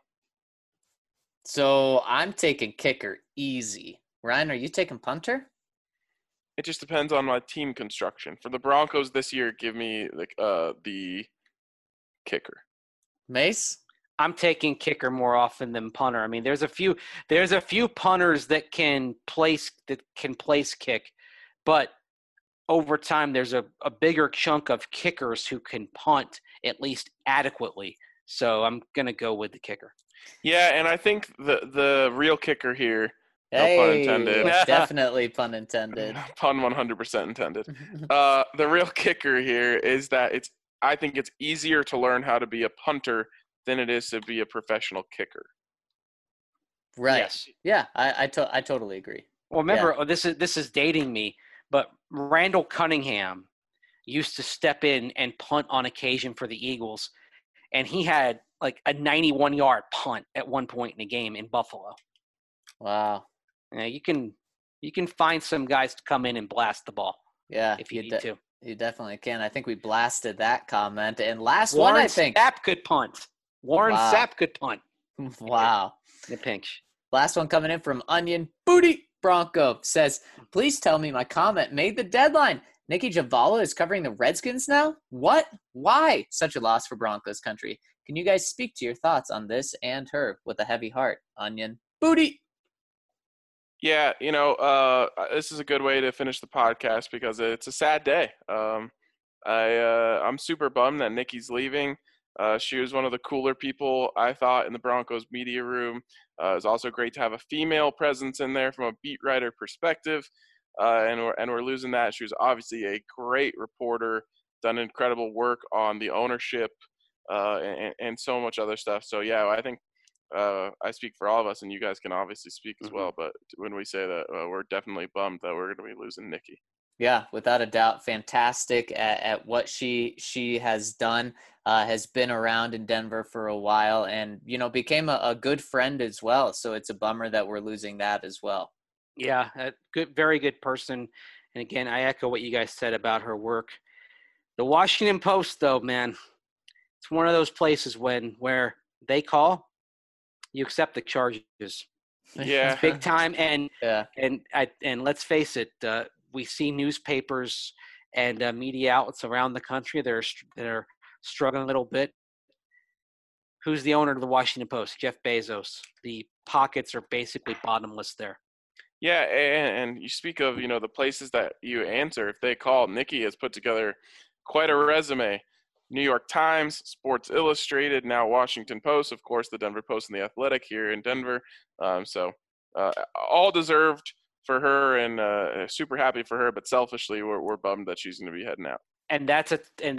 So I'm taking kicker easy. Ryan, are you taking punter? It just depends on my team construction. For the Broncos this year, give me the kicker. Mace? I'm taking kicker more often than punter. I mean, there's a few punters that can place kick, but over time there's a bigger chunk of kickers who can punt at least adequately. So I'm gonna go with the kicker. Yeah, and I think the real kicker here. Hey, no pun intended. Definitely pun intended. Pun 100% intended. The real kicker here is that I think it's easier to learn how to be a punter than it is to be a professional kicker. Right. Yes. Yeah, I totally agree. Well, remember, this is dating me, but Randall Cunningham used to step in and punt on occasion for the Eagles, and he had like a 91-yard punt at one point in a game in Buffalo. Wow. You can find some guys to come in and blast the ball. Yeah, if you need to. You definitely can. I think we blasted that comment. And last Warren one, I think. Sapp could punt. Warren Sapp could punt. Wow. The pinch. Last one coming in from Onion Booty Bronco says, please tell me my comment made the deadline. Nikki Javala is covering the Redskins now? What? Why? Such a loss for Broncos country. Can you guys speak to your thoughts on this and her with a heavy heart? Onion Booty. Yeah, this is a good way to finish the podcast because it's a sad day. I'm super bummed that Nikki's leaving. She was one of the cooler people, I thought, in the Broncos media room. It was also great to have a female presence in there from a beat writer perspective, and we're losing that. She was obviously a great reporter, done incredible work on the ownership and so much other stuff. So, yeah, I think I speak for all of us, and you guys can obviously speak as well. But when we say that, we're definitely bummed that we're going to be losing Nikki. Yeah, without a doubt, fantastic at what she has done. Has been around in Denver for a while, and became a good friend as well. So it's a bummer that we're losing that as well. Yeah, a good, very good person. And again, I echo what you guys said about her work. The Washington Post, though, man, it's one of those places where they call, you accept the charges. Yeah. It's big time, and Yeah. and let's face it, we see newspapers and media outlets around the country that are struggling a little bit. Who's the owner of the Washington Post? Jeff Bezos. The pockets are basically bottomless there. Yeah, and you speak of, the places that you answer. If they call, Nikki has put together quite a resume. New York Times, Sports Illustrated, now Washington Post, of course, the Denver Post and the Athletic here in Denver. So all deserved for her, and super happy for her. But selfishly, we're bummed that she's going to be heading out. And that's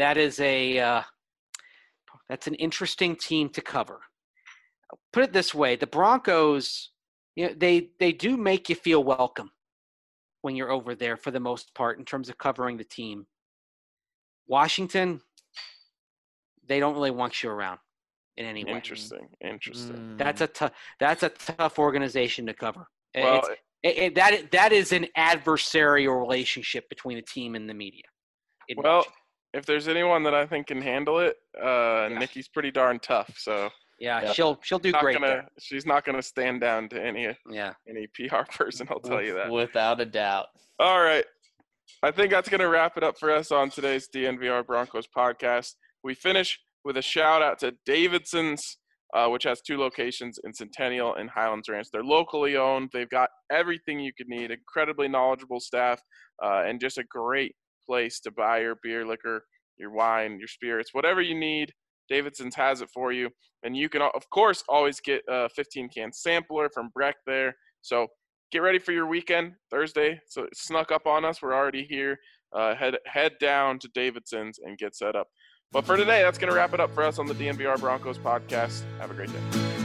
an interesting team to cover. Put it this way: the Broncos, they do make you feel welcome when you're over there for the most part in terms of covering the team. Washington, they don't really want you around in any way. Interesting. That's a tough organization to cover. Well, that is an adversarial relationship between the team and the media. Well, if there's anyone that I think can handle it, Nikki's pretty darn tough. So yeah, she'll do great. She's not gonna stand down to any PR person. I'll tell you that without a doubt. All right, I think that's gonna wrap it up for us on today's DNVR Broncos podcast. We finish with a shout out to Davidson's, which has 2 locations in Centennial and Highlands Ranch. They're locally owned. They've got everything you could need. Incredibly knowledgeable staff, and just a great place to buy your beer, liquor, your wine, your spirits, whatever you need. Davidson's has it for you. And you can, of course, always get a 15-can sampler from Breck there. So get ready for your weekend, Thursday. So it snuck up on us. We're already here. Head down to Davidson's and get set up. But for today, that's going to wrap it up for us on the DNVR Broncos podcast. Have a great day.